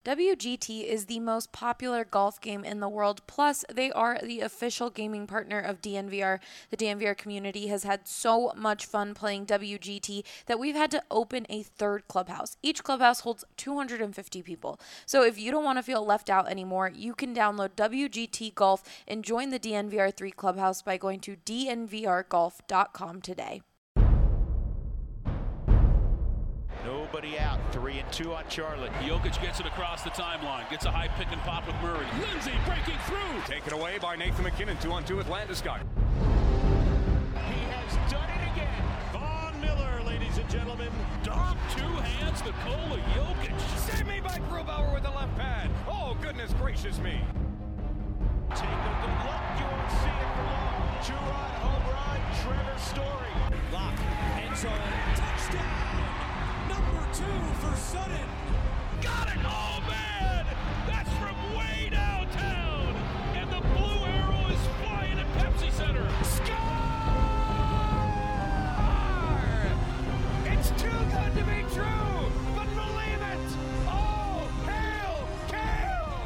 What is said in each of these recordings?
WGT is the most popular golf game in the world. Plus, they are the official gaming partner of DNVR. The DNVR community has had so much fun playing WGT that we've had to open a third clubhouse. Each clubhouse holds 250 people. So if you don't want to feel left out anymore, you can download WGT Golf and join the DNVR 3 clubhouse by going to dnvrgolf.com today. Nobody out. 3-2 on Charlotte. Jokic gets it across the timeline. Gets a high pick and pop with Murray. Lindsay breaking through. Taken away by Nathan McKinnon. 2-on-2 with Landeskog. He has done it again. Von Miller, ladies and gentlemen. Dom, two hands, Nikola Jokic. Save me by Grubauer with the left pad. Oh, goodness gracious me. Take a good look. You won't see it for long. Two-run home run. Trevor Story. Lock. End zone. Touchdown. Number 2 for Sutton. Got it! Oh, man! That's from way downtown! And the blue arrow is flying at Pepsi Center. Score! It's too good to be true, but believe it! Oh, hail, Kale!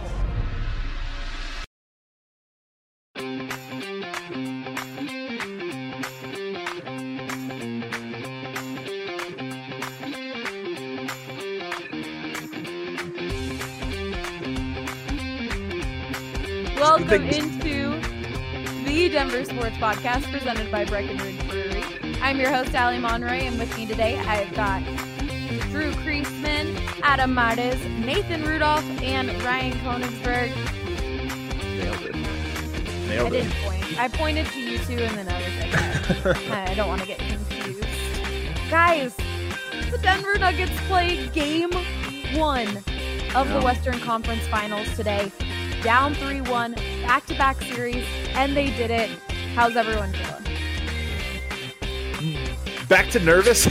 Welcome into the Denver Sports Podcast presented by Breckenridge Brewery. I'm your host, Allie Monroy, and with me today I've got Drew Kreisman, Adam Martez, Nathan Rudolph, and Ryan Konigsberg. Nailed it. I didn't point. I pointed to you two, and then I was like, I don't want to get confused. Guys, the Denver Nuggets play Game 1 of the Western Conference Finals today. Down 3-1, back-to-back series, and they did it. How's everyone feeling? Back to nervous.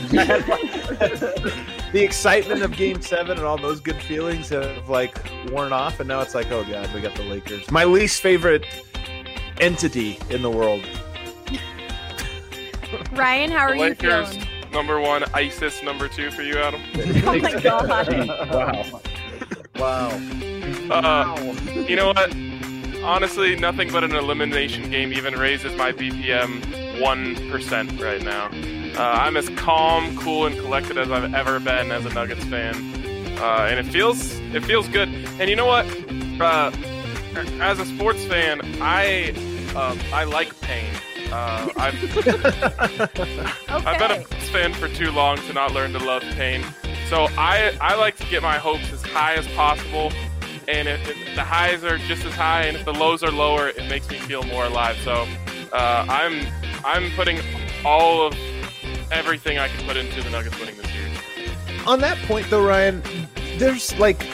The excitement of Game 7 and all those good feelings have worn off, and now it's like, oh god, we got the Lakers. My least favorite entity in the world. Ryan, how are you Lakers, feeling? number 1, ISIS number 2 for you, Adam. Oh my god. Wow. You know what? Honestly, nothing but an elimination game even raises my BPM 1% right now. I'm as calm, cool, and collected as I've ever been as a Nuggets fan, and it feels good. And you know what? As a sports fan, I like pain. I've been a Bucks fan for too long to not learn to love pain. So I like to get my hopes as high as possible, and if the highs are just as high, and if the lows are lower, it makes me feel more alive. So I'm putting all of everything I can put into the Nuggets winning this series. On that point, though, Ryan, there's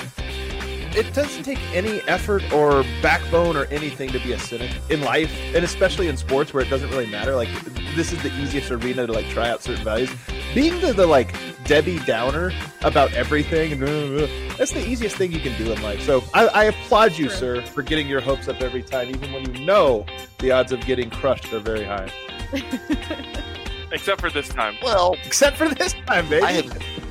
it doesn't take any effort or backbone or anything to be a cynic in life, and especially in sports where it doesn't really matter. This is the easiest arena to try out certain values. Being the Debbie Downer about everything, that's the easiest thing you can do in life. So I applaud you, sir, for getting your hopes up every time, even when you know the odds of getting crushed are very high. Except for this time. Well, except for this time, baby.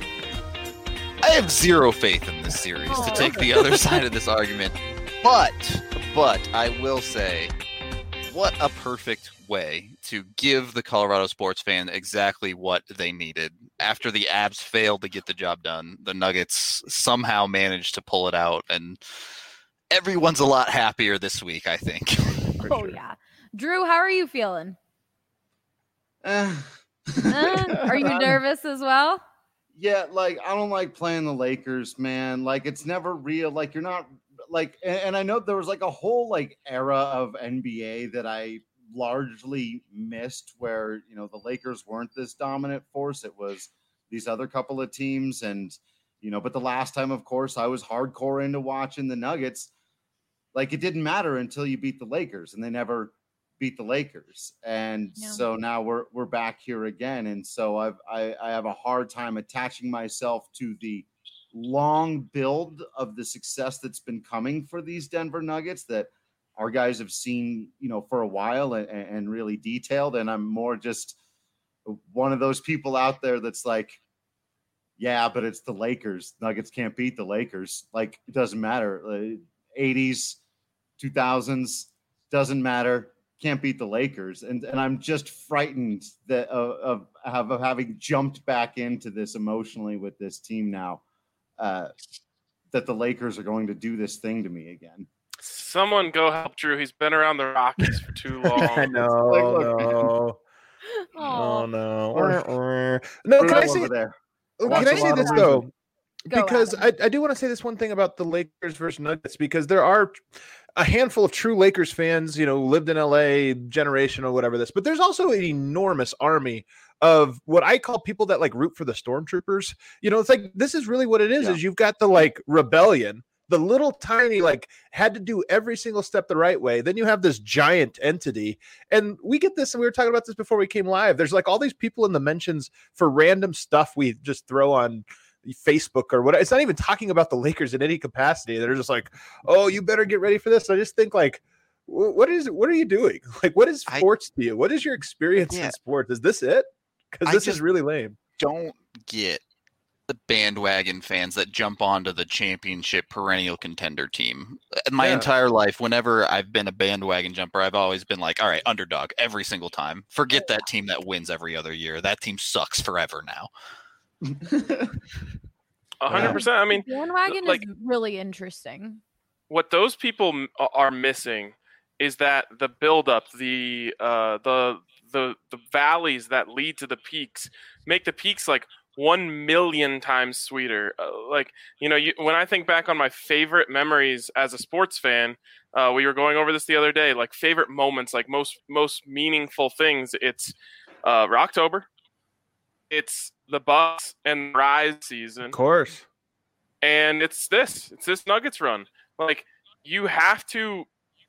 I have zero faith in this series to take the other side of this argument. But I will say, what a perfect way to give the Colorado sports fan exactly what they needed. After the Abs failed to get the job done, the Nuggets somehow managed to pull it out, and everyone's a lot happier this week, I think. Oh, yeah. Drew, how are you feeling? Are you nervous as well? Yeah, I don't like playing the Lakers, man. It's never real. You're not and I know there was a whole era of NBA that I largely missed where, the Lakers weren't this dominant force. It was these other couple of teams. And, but the last time, of course, I was hardcore into watching the Nuggets. It didn't matter until you beat the Lakers, and they never beat the Lakers. And so now we're back here again. And so I have a hard time attaching myself to the long build of the success that's been coming for these Denver Nuggets that our guys have seen, for a while and really detailed. And I'm more just one of those people out there that's Yeah, but it's the Lakers. Nuggets can't beat the Lakers. Like, it doesn't matter. 80s, 2000s, doesn't matter. Can't beat the Lakers. And I'm just frightened that of having jumped back into this emotionally with this team now, that the Lakers are going to do this thing to me again. Someone go help Drew. He's been around the Rockies for too long. I know. Oh no. No, can I say there? Can I say this though? Go, Because Adam. I do want to say this one thing about the Lakers versus Nuggets, because there are a handful of true Lakers fans, you know, lived in LA, generational, whatever this, but there's also an enormous army of what I call people that like root for the stormtroopers. You know, it's like, this is really what it is, is you've got the like rebellion, the little tiny, like, had to do every single step the right way. Then you have this giant entity, and we get this, and we were talking about this before we came live. There's like all these people in the mentions for random stuff we just throw on Facebook or what. It's not even talking about the Lakers in any capacity. They're just like, oh, you better get ready for this. I just think like, what are you doing? Like, what is sports to you? What is your experience in sports? Is this it? Because this is really lame. Don't get the bandwagon fans that jump onto the championship perennial contender team. My entire life, whenever I've been a bandwagon jumper, I've always been like, all right, underdog every single time. Forget that team that wins every other year. That team sucks forever now. 100%. I mean, bandwagon like, is really interesting. what those people are missing is that the buildup, the valleys that lead to the peaks make the peaks like 1 million times sweeter. Like, you know, when I think back on my favorite memories as a sports fan, we were going over this the other day, like favorite moments, like most meaningful things. It's Rocktober. It's the Bucks and Rise season. Of course. And it's this Nuggets run. Like, you have to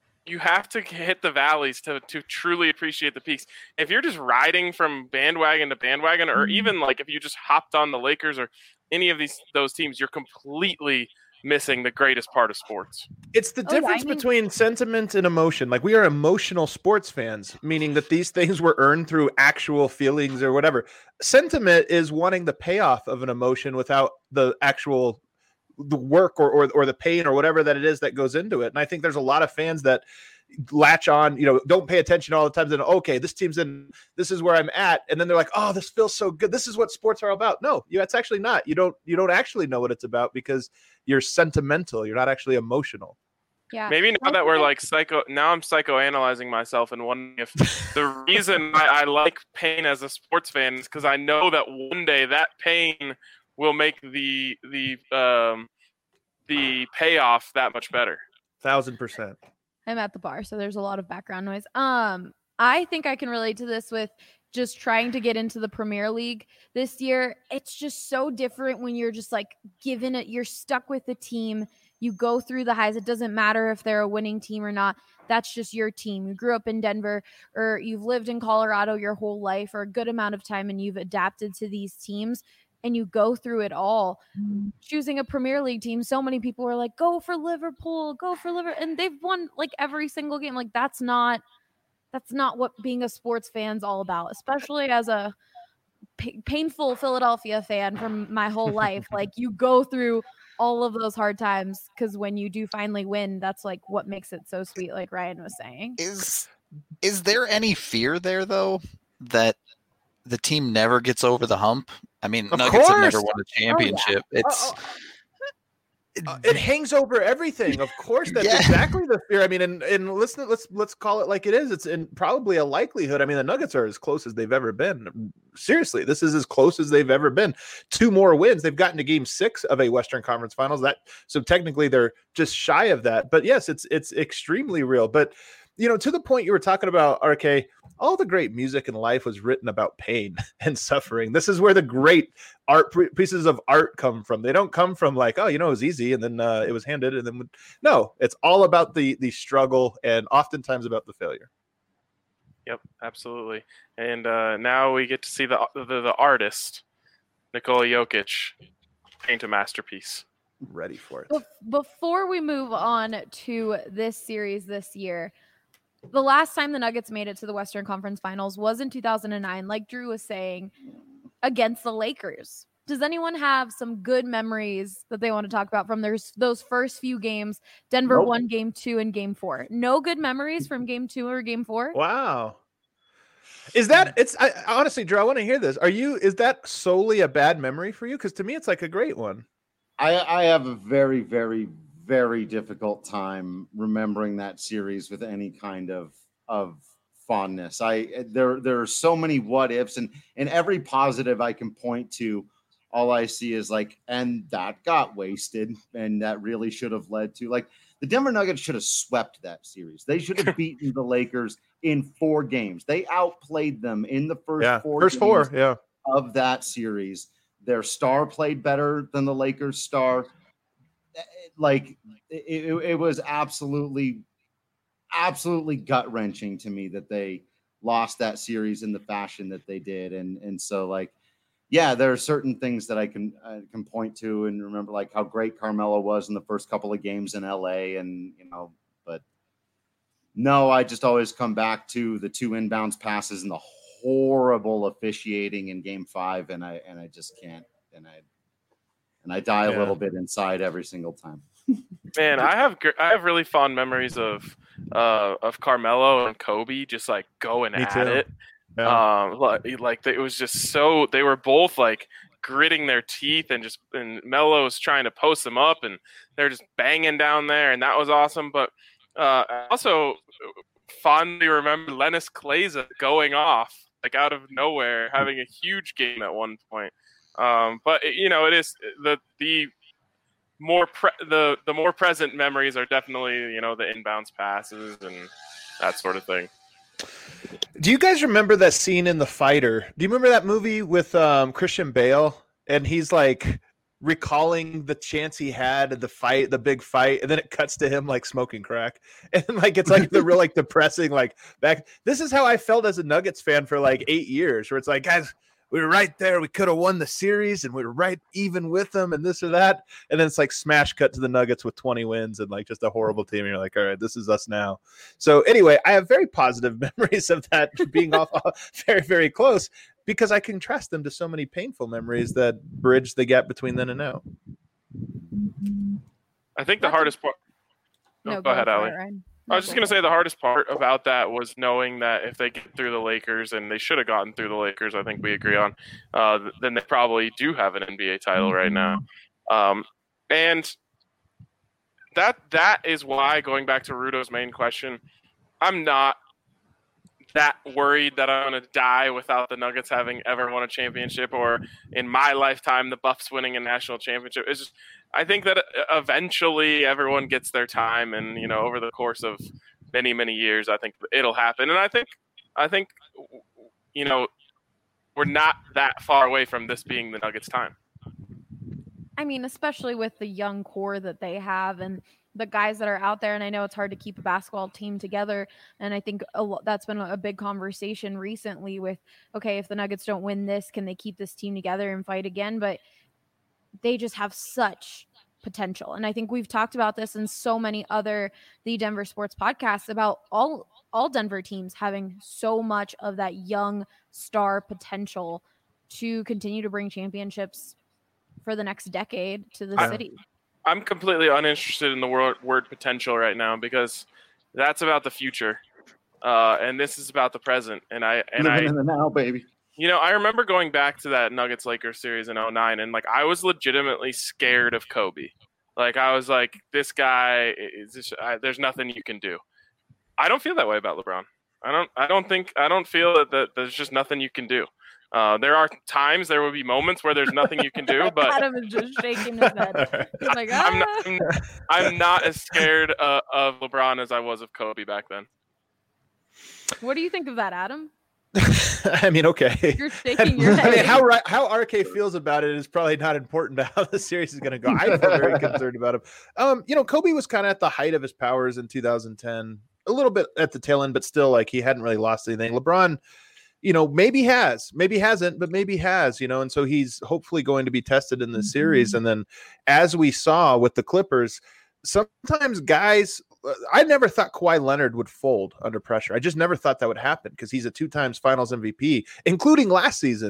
hit the valleys to truly appreciate the peaks. If you're just riding from bandwagon to bandwagon, or even like if you just hopped on the Lakers or any of those teams, you're completely missing the greatest part of sports. It's the difference between sentiment and emotion. Like, we are emotional sports fans, meaning that these things were earned through actual feelings or whatever. Sentiment is wanting the payoff of an emotion without the actual the work or the pain or whatever that it is that goes into it. And I think there's a lot of fans that latch on, you know, don't pay attention all the time. Then, okay, this team's in, this is where I'm at. And then they're like, oh, this feels so good. This is what sports are about. No, it's actually not. You don't actually know what it's about because you're sentimental. You're not actually emotional. Yeah. Maybe now that we're like I'm psychoanalyzing myself and wondering if the reason I like pain as a sports fan is because I know that one day that pain will make the payoff that much better. 1,000%. I'm at the bar, so there's a lot of background noise. I think I can relate to this with just trying to get into the Premier League this year. It's just so different when you're just like given it, you're stuck with the team. You go through the highs. It doesn't matter if they're a winning team or not. That's just your team. You grew up in Denver, or you've lived in Colorado your whole life or a good amount of time, and you've adapted to these teams. And you go through it all. Choosing a Premier League team, so many people are like, go for Liverpool, and they've won like every single game. Like, that's not what being a sports fan's all about, especially as a painful Philadelphia fan from my whole life. Like, you go through all of those hard times because when you do finally win, that's like what makes it so sweet, like Ryan was saying. Is there any fear there, though, that the team never gets over the hump? I mean, Nuggets have never won a championship. It hangs over everything. Of course, that's exactly the fear. I mean, and listen, let's call it like it is. It's probably a likelihood. I mean, the Nuggets are as close as they've ever been. Seriously, this is as close as they've ever been. 2 more wins. They've gotten to Game 6 of a Western Conference Finals. So technically, they're just shy of that. But yes, it's extremely real. But you know, to the point you were talking about, RK, all the great music in life was written about pain and suffering. This is where the great pieces of art come from. They don't come from like, oh, you know, it was easy and then it was handed. And then no, it's all about the struggle and oftentimes about the failure. Yep, absolutely. And now we get to see the artist, Nikola Jokic, paint a masterpiece. Ready for it. Before we move on to this series this year, the last time the Nuggets made it to the Western Conference Finals was in 2009, like Drew was saying, against the Lakers. does anyone have some good memories that they want to talk about from those first few games? Denver won game 2 and game 4. No good memories from game 2 or game 4? Wow. Is that honestly, Drew, I want to hear this. Is that solely a bad memory for you? Because to me, it's like a great one. I have a very, very, very difficult time remembering that series with any kind of fondness. There are so many what ifs, and every positive I can point to, all I see is like, and that got wasted, and that really should have led to, like, the Denver Nuggets should have swept that series. They should have beaten the Lakers in 4 games. They outplayed them in the first four games of that series. Their star played better than the Lakers' star. Like, it was absolutely gut-wrenching to me that they lost that series in the fashion that they did. And so, like, yeah, there are certain things that I can point to and remember, like how great Carmelo was in the first couple of games in LA, and but no, I just always come back to the 2 inbounds passes and the horrible officiating in game 5, and I just can't, and I die a little bit inside every single time. Man, I have really fond memories of Carmelo and Kobe just like going at it. Yeah. Like it was just so, they were both like gritting their teeth, and Melo's trying to post them up, and they're just banging down there, and that was awesome. But I also fondly remember Lennis Kleiza going off like out of nowhere, having a huge game at one point. But it is the more present memories are definitely the inbounds passes and that sort of thing. Do you guys remember that scene in The Fighter? Do you remember that movie with Christian Bale, and he's like recalling the chance he had at the big fight, and then it cuts to him like smoking crack, and like it's like the real like depressing like back. This is how I felt as a Nuggets fan for like 8 years, where it's like, guys, we were right there. We could have won the series, and we were right even with them, and this or that. And then it's like smash cut to the Nuggets with 20 wins and like just a horrible team. And you're like, all right, this is us now. So anyway, I have very positive memories of that being off very, very close, because I contrast them to so many painful memories that bridge the gap between then and now. I think the hardest part. No, go ahead, Allie. No, I was just going to say the hardest part about that was knowing that if they get through the Lakers, and they should have gotten through the Lakers, I think we agree on, then they probably do have an NBA title right now. And that is why, going back to Rudo's main question, I'm not that worried that I'm going to die without the Nuggets having ever won a championship, or in my lifetime the Buffs winning a national championship. It's just, I think that eventually everyone gets their time, and over the course of many, many years, I think it'll happen. And I think we're not that far away from this being the Nuggets' time. I mean, especially with the young core that they have and the guys that are out there. And I know it's hard to keep a basketball team together. And I think that's been a big conversation recently with, okay, if the Nuggets don't win this, can they keep this team together and fight again? But they just have such potential. And I think we've talked about this in so many other The Denver Sports podcasts about all Denver teams having so much of that young star potential to continue to bring championships for the next decade to the city. I'm completely uninterested in the word potential right now, because that's about the future. And this is about the present. And living in the now, baby. I remember going back to that Nuggets-Lakers series in 2009, and like I was legitimately scared of Kobe. Like I was like, this guy is just, there's nothing you can do. I don't feel that way about LeBron. I don't feel that there's just nothing you can do. There are times, there will be moments where there's nothing you can do, but Adam is just shaking his head. He's like, I'm not as scared of LeBron as I was of Kobe back then. What do you think of that, Adam? I mean, okay. You're shaking your head. I mean, how RK feels about it is probably not important to how the series is going to go. I feel very concerned about him. Kobe was kind of at the height of his powers in 2010, a little bit at the tail end, but still, like, he hadn't really lost anything. LeBron, maybe hasn't, but maybe has, and so he's hopefully going to be tested in this series. And then, as we saw with the Clippers, sometimes guys, I never thought Kawhi Leonard would fold under pressure. I just never thought that would happen, because he's a 2 times finals MVP, including last season.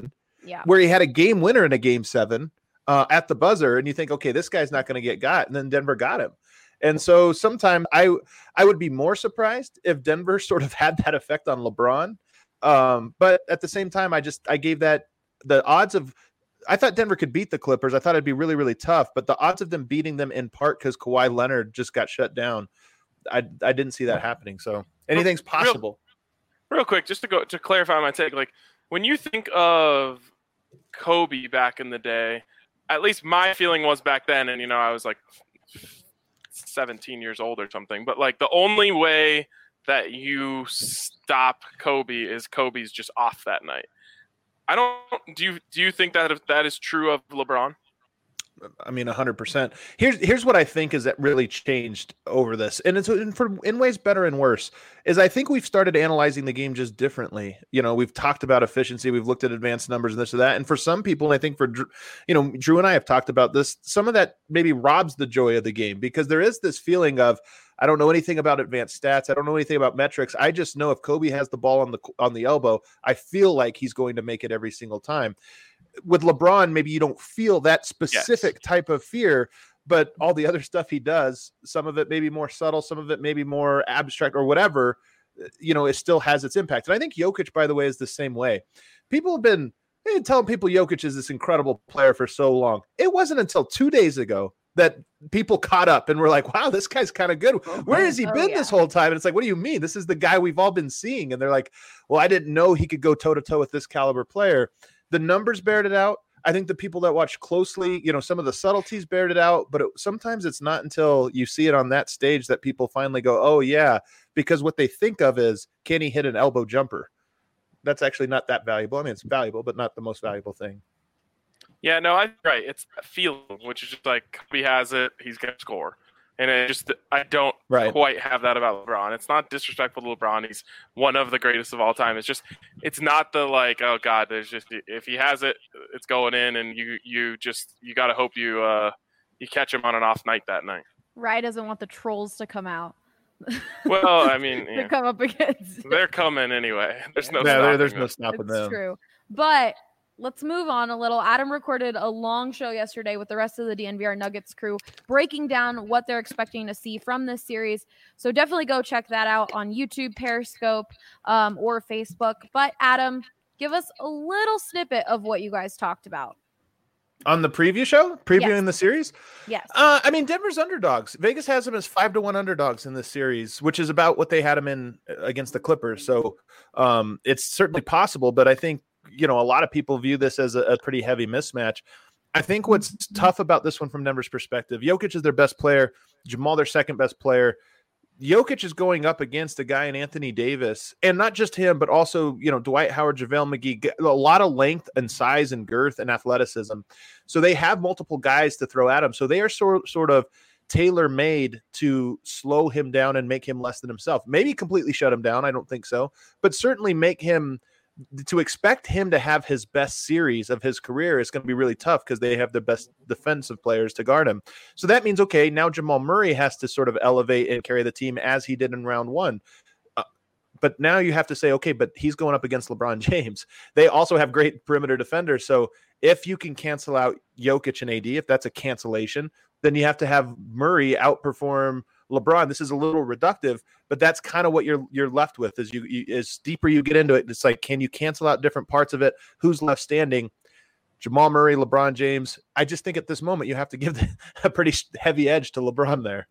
where he had a game winner in a game 7 at the buzzer, and you think, okay, this guy's not going to get got, and then Denver got him. And so sometime I would be more surprised if Denver sort of had that effect on LeBron. But at the same time, I gave that the odds of, I thought Denver could beat the Clippers. I thought it'd be really, really tough, but the odds of them beating them in part because Kawhi Leonard just got shut down, I didn't see that happening. So anything's possible. Real quick, just to clarify my take, like when you think of Kobe back in the day, at least my feeling was back then, and I was like 17 years old or something, but like the only way that you stop Kobe is Kobe's just off that night. Do you think that is true of LeBron? I mean, 100%. Here's what I think is that really changed over this, and it's in ways better and worse. Is I think we've started analyzing the game just differently. We've talked about efficiency, we've looked at advanced numbers and this or that, and for some people, and I think for Drew and I have talked about this. Some of that maybe robs the joy of the game because there is this feeling of, I don't know anything about advanced stats. I don't know anything about metrics. I just know if Kobe has the ball on the elbow, I feel like he's going to make it every single time. With LeBron, maybe you don't feel that specific type of fear, but all the other stuff he does, some of it may be more subtle, some of it may be more abstract or whatever, it still has its impact. And I think Jokic, by the way, is the same way. People have been telling people Jokic is this incredible player for so long. It wasn't until 2 days ago that people caught up and were like, wow, this guy's kind of good. Where has he been this whole time? And it's like, what do you mean? This is the guy we've all been seeing. And they're like, well, I didn't know he could go toe to toe with this caliber player. The numbers bared it out. I think the people that watch closely, some of the subtleties bared it out, but sometimes it's not until you see it on that stage that people finally go, oh yeah, because what they think of is, can he hit an elbow jumper? That's actually not that valuable. I mean, it's valuable, but not the most valuable thing. Yeah, no, right. It's a feeling, which is just like Kobe has it, he's going to score. And I don't quite have that about LeBron. It's not disrespectful to LeBron. He's one of the greatest of all time. It's not the like, oh God, there's just, if he has it, it's going in, and you got to hope you catch him on an off night that night. Rye doesn't want the trolls to come out. Well, I mean, to come up against. They're coming anyway. There's no stopping them. It's true. But let's move on a little. Adam recorded a long show yesterday with the rest of the DNVR Nuggets crew, breaking down what they're expecting to see from this series. So definitely go check that out on YouTube, Periscope, or Facebook. But Adam, give us a little snippet of what you guys talked about. On the preview show? Previewing the series? Yes. I mean, Denver's underdogs. Vegas has them as 5-1 underdogs in this series, which is about what they had them in against the Clippers. So it's certainly possible, but I think, a lot of people view this as a pretty heavy mismatch. I think what's tough about this one from Denver's perspective, Jokic is their best player, Jamal their second best player. Jokic is going up against a guy in Anthony Davis, and not just him, but also, Dwight Howard, JaVale McGee, a lot of length and size and girth and athleticism. So they have multiple guys to throw at him. So they are sort of tailor-made to slow him down and make him less than himself. Maybe completely shut him down. I don't think so, but certainly make him, to expect him to have his best series of his career is going to be really tough because they have the best defensive players to guard him. So that means, okay, now Jamal Murray has to sort of elevate and carry the team as he did in round one. But now you have to say, okay, but he's going up against LeBron James. They also have great perimeter defenders. So if you can cancel out Jokic and AD, if that's a cancellation, then you have to have Murray outperform LeBron. This is a little reductive, but that's kind of what you're left with. As as deeper you get into it, it's like, can you cancel out different parts of it? Who's left standing? Jamal Murray, LeBron James. I just think at this moment you have to give a pretty heavy edge to LeBron there.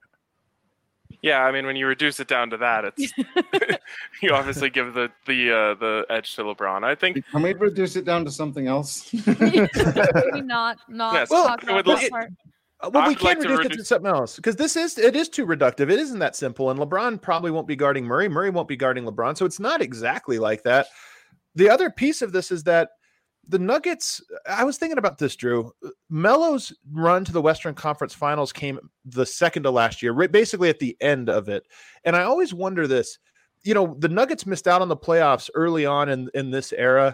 Yeah, I mean, when you reduce it down to that, it's you obviously give the edge to LeBron. I think. Can we reduce it down to something else? Maybe not. Yes. Talk about that part. Well, we can reduce it to something else because it is too reductive. It isn't that simple. And LeBron probably won't be guarding Murray. Murray won't be guarding LeBron. So it's not exactly like that. The other piece of this is that the Nuggets, I was thinking about this, Drew. Melo's run to the Western Conference Finals came the second to last year, basically at the end of it. And I always wonder this, the Nuggets missed out on the playoffs early on in this era.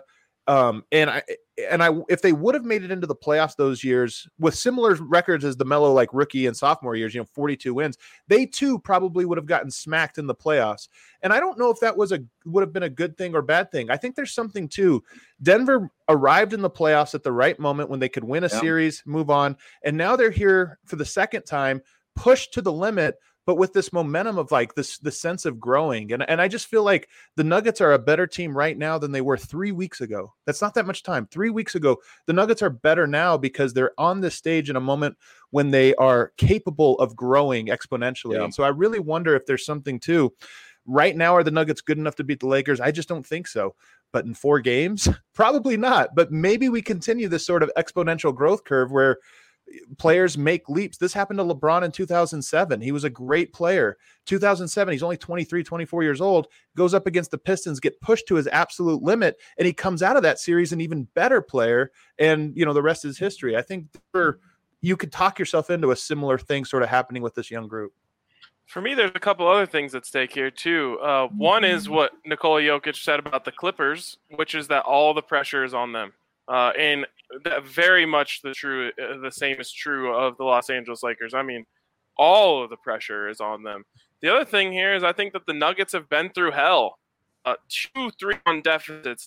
If they would have made it into the playoffs those years with similar records as the Melo like rookie and sophomore years, 42 wins, they too probably would have gotten smacked in the playoffs. And I don't know if that would have been a good thing or bad thing. I think there's something too. Denver arrived in the playoffs at the right moment when they could win a series, move on, and now they're here for the second time, pushed to the limit, but with this momentum of like the sense of growing. And I just feel like the Nuggets are a better team right now than they were 3 weeks ago. That's not that much time. 3 weeks ago, the Nuggets are better now because they're on this stage in a moment when they are capable of growing exponentially. Yeah. And so I really wonder if there's something too. Right now, are the Nuggets good enough to beat the Lakers? I just don't think so. But in 4 games, probably not. But maybe we continue this sort of exponential growth curve where players make leaps. This happened to LeBron in 2007. He was a great player. 2007, he's only 23, 24 years old, goes up against the Pistons, get pushed to his absolute limit, and he comes out of that series an even better player. And, the rest is history. I think you could talk yourself into a similar thing sort of happening with this young group. For me, there's a couple other things at stake here, too. One is what Nikola Jokic said about the Clippers, which is that all the pressure is on them. And that very much the same is true of the Los Angeles Lakers. I mean, all of the pressure is on them. The other thing here is I think that the Nuggets have been through hell. 2 3-1 deficits.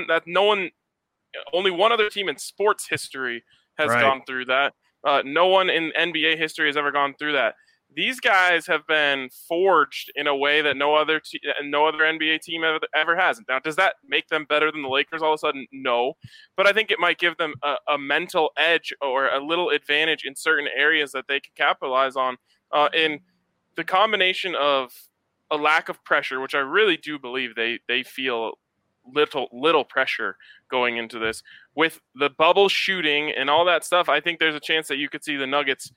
Only one other team in sports history has gone through that. No one in NBA history has ever gone through that. These guys have been forged in a way that no other NBA team ever has. Now, does that make them better than the Lakers all of a sudden? No. But I think it might give them a mental edge or a little advantage in certain areas that they can capitalize on. In the combination of a lack of pressure, which I really do believe they feel little pressure going into this, with the bubble shooting and all that stuff, I think there's a chance that you could see the Nuggets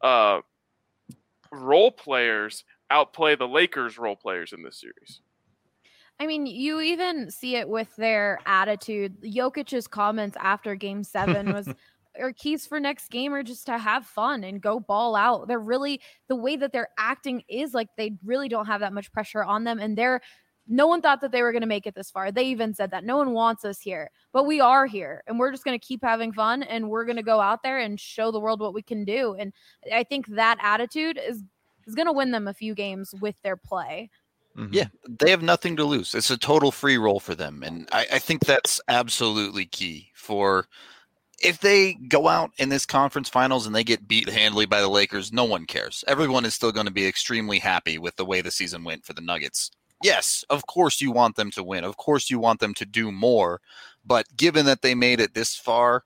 role players outplay the Lakers role players in this series. I mean, you even see it with their attitude. Jokic's comments after Game 7 was, our keys for next game are just to have fun and go ball out. They're really, the way that they're acting is like they really don't have that much pressure on them. And no one thought that they were going to make it this far. They even said that no one wants us here, but we are here and we're just going to keep having fun and we're going to go out there and show the world what we can do. And I think that attitude is going to win them a few games with their play. Mm-hmm. Yeah, they have nothing to lose. It's a total free roll for them. And I think that's absolutely key for if they go out in this conference finals and they get beat handily by the Lakers, no one cares. Everyone is still going to be extremely happy with the way the season went for the Nuggets. Yes, of course you want them to win. Of course you want them to do more. But given that they made it this far,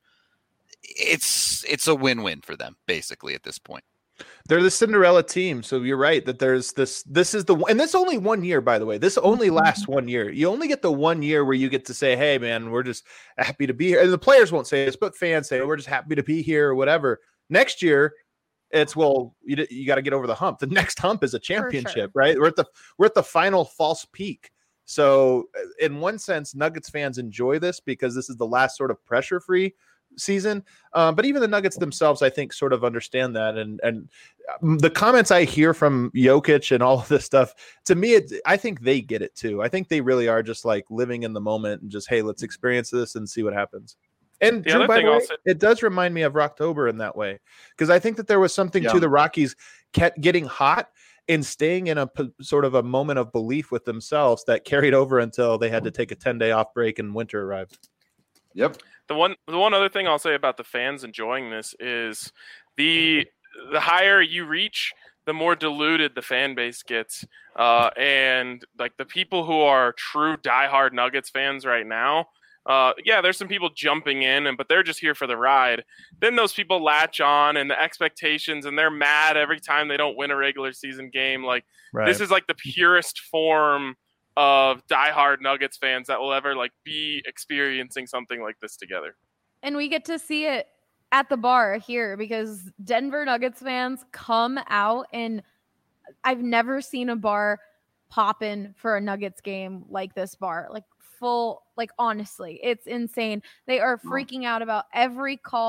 it's a win-win for them, basically, at this point. They're the Cinderella team. So you're right that there's this is the, and this only 1 year, by the way, this only lasts 1 year. You only get the 1 year where you get to say, hey man, we're just happy to be here. And the players won't say this, but fans say, we're just happy to be here or whatever. Next year, it's, well, you got to get over the hump. The next hump is a championship, right? We're at the final false peak. So in one sense, Nuggets fans enjoy this because this is the last sort of pressure-free season. But even the Nuggets themselves, I think, sort of understand that. And the comments I hear from Jokic and all of this stuff, to me, I think they get it too. I think they really are just like living in the moment and just, hey, let's experience this and see what happens. And Drew, by the way, it does remind me of Rocktober in that way, because I think that there was something to the Rockies getting hot and staying in a sort of a moment of belief with themselves that carried over until they had to take a 10-day off break and winter arrived. Yep. The one other thing I'll say about the fans enjoying this is the higher you reach, the more diluted the fan base gets. And like the people who are true diehard Nuggets fans right now, there's some people jumping in, but they're just here for the ride. Then those people latch on and the expectations, and they're mad every time they don't win a regular season game. Like This is like the purest form of diehard Nuggets fans that will ever like be experiencing something like this together. And we get to see it at the bar here because Denver Nuggets fans come out, and I've never seen a bar poppin' for a Nuggets game like this bar. Like full, like honestly, it's insane. They are freaking out about every call,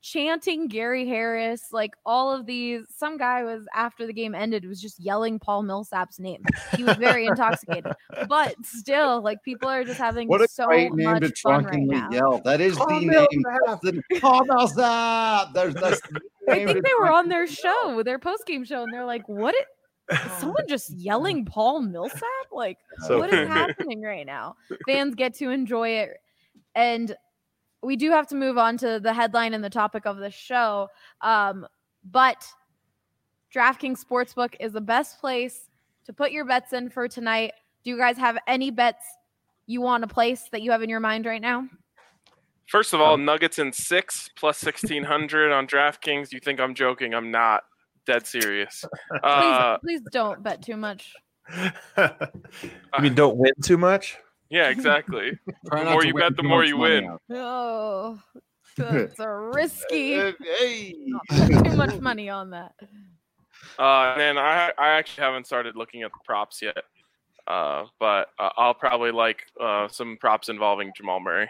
chanting Gary Harris, like all of these. Some guy was, after the game ended, was just yelling Paul Millsap's name. He was very intoxicated, but still, like, people are just having What a so great name much to fun right drunkenly now. yell. That is Paul the Millsap. name. Paul Millsap. That's the I name think to they were on drunkenly their yell. show, their post-game show, and they're like, what? Is someone just yelling Paul Millsap? Like, So what is funny. happening right now? Fans get to enjoy it. And we do have to move on to the headline and the topic of the show. But DraftKings Sportsbook is the best place to put your bets in for tonight. Do you guys have any bets you want to place that you have in your mind right now? First of all, Nuggets in 6 plus 1,600 on DraftKings. You think I'm joking? I'm not. Dead serious. Please don't bet too much. You mean don't win too much? Yeah, exactly. Try The not more to you win bet, the too more much you money win. out. Oh, that's a risky. Hey. Too much money on that. And then I actually haven't started looking at the props yet. But I'll probably like some props involving Jamal Murray.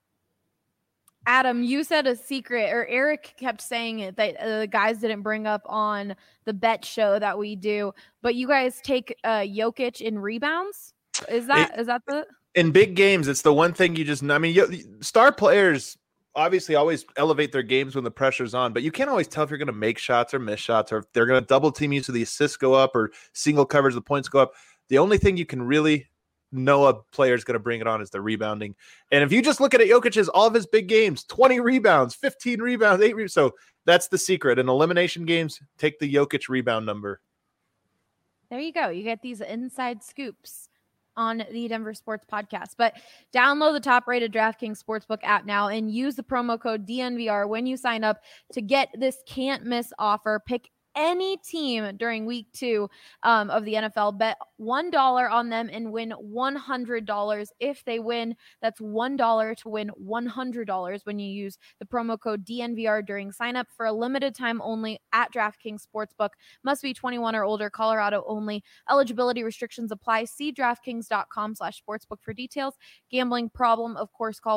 Adam, you said a secret, or Eric kept saying it, that the guys didn't bring up on the bet show that we do, but you guys take Jokic in rebounds? Is that the... In big games, it's the one thing you just, I mean, star players obviously always elevate their games when the pressure's on, but you can't always tell if you're going to make shots or miss shots, or if they're going to double team you so the assists go up, or single coverage, the points go up. The only thing you can really know a player is going to bring it on is the rebounding. And if you just look at Jokic's, all of his big games, 20 rebounds, 15 rebounds, 8 rebounds. So that's the secret. In elimination games, take the Jokic rebound number. There you go. You get these inside scoops on the Denver Sports Podcast. But download the top-rated DraftKings Sportsbook app now and use the promo code DNVR when you sign up to get this can't-miss offer. Pick any team during week 2 of the NFL. Bet $1 on them and win $100. If they win, that's $1 to win $100 when you use the promo code DNVR during sign-up for a limited time only at DraftKings Sportsbook. Must be 21 or older, Colorado only. Eligibility restrictions apply. See DraftKings.com/sportsbook for details. Gambling problem, of course, call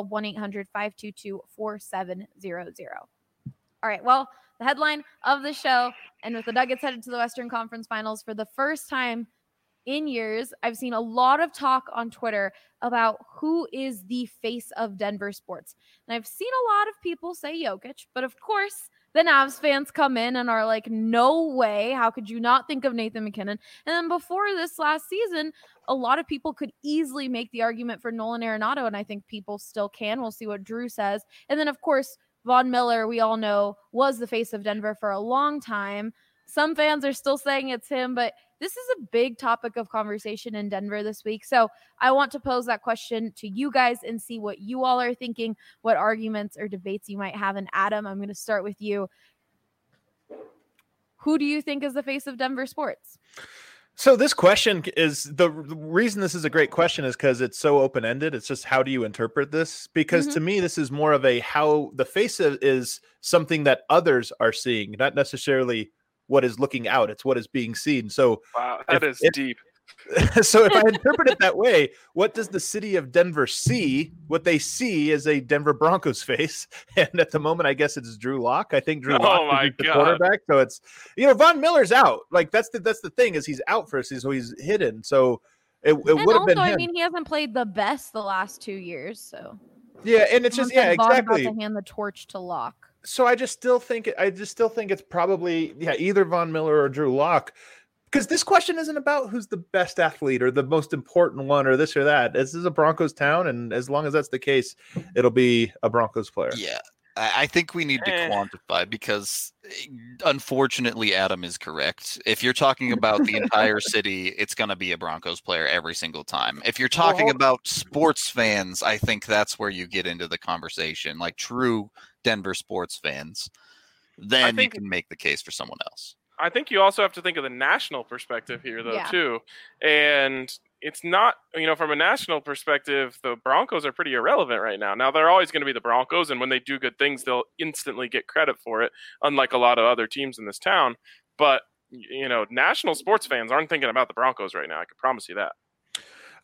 1-800-522-4700. All right, well, the headline of the show, and with the Nuggets headed to the Western Conference Finals for the first time in years, I've seen a lot of talk on Twitter about who is the face of Denver sports. And I've seen a lot of people say Jokic, but of course, the Navs fans come in and are like, no way, how could you not think of Nathan McKinnon? And then before this last season, a lot of people could easily make the argument for Nolan Arenado, and I think people still can. We'll see what Drew says. And then, of course, Von Miller, we all know, was the face of Denver for a long time. Some fans are still saying it's him, but this is a big topic of conversation in Denver this week. So I want to pose that question to you guys and see what you all are thinking, what arguments or debates you might have. And Adam, I'm going to start with you. Who do you think is the face of Denver sports? So this question is, the reason this is a great question is because it's so open-ended. It's just, how do you interpret this? Because to me, this is more of a, how the face of is something that others are seeing, not necessarily what is looking out. It's what is being seen. So wow, that is deep. So if I interpret it that way, what does the city of Denver see? What they see is a Denver Broncos face. And at the moment, I guess it's Drew Lock. I think Drew Lock is the quarterback. So it's, Von Miller's out. Like that's the thing, is he's out for us. So he's hidden. So it would have been him. I mean, he hasn't played the best the last 2 years. So yeah, and it's just, yeah, exactly. About to hand the torch to Lock. So I just still think it's probably, either Von Miller or Drew Lock. Because this question isn't about who's the best athlete or the most important one or this or that. This is a Broncos town, and as long as that's the case, it'll be a Broncos player. Yeah, I think we need to quantify, because unfortunately Adam is correct. If you're talking about the entire city, it's going to be a Broncos player every single time. If you're talking about sports fans, I think that's where you get into the conversation, like true Denver sports fans. Then you can make the case for someone else. I think you also have to think of the national perspective here, though, too. And it's not, from a national perspective, the Broncos are pretty irrelevant right now. Now, they're always going to be the Broncos, and when they do good things, they'll instantly get credit for it, unlike a lot of other teams in this town. But, national sports fans aren't thinking about the Broncos right now. I can promise you that.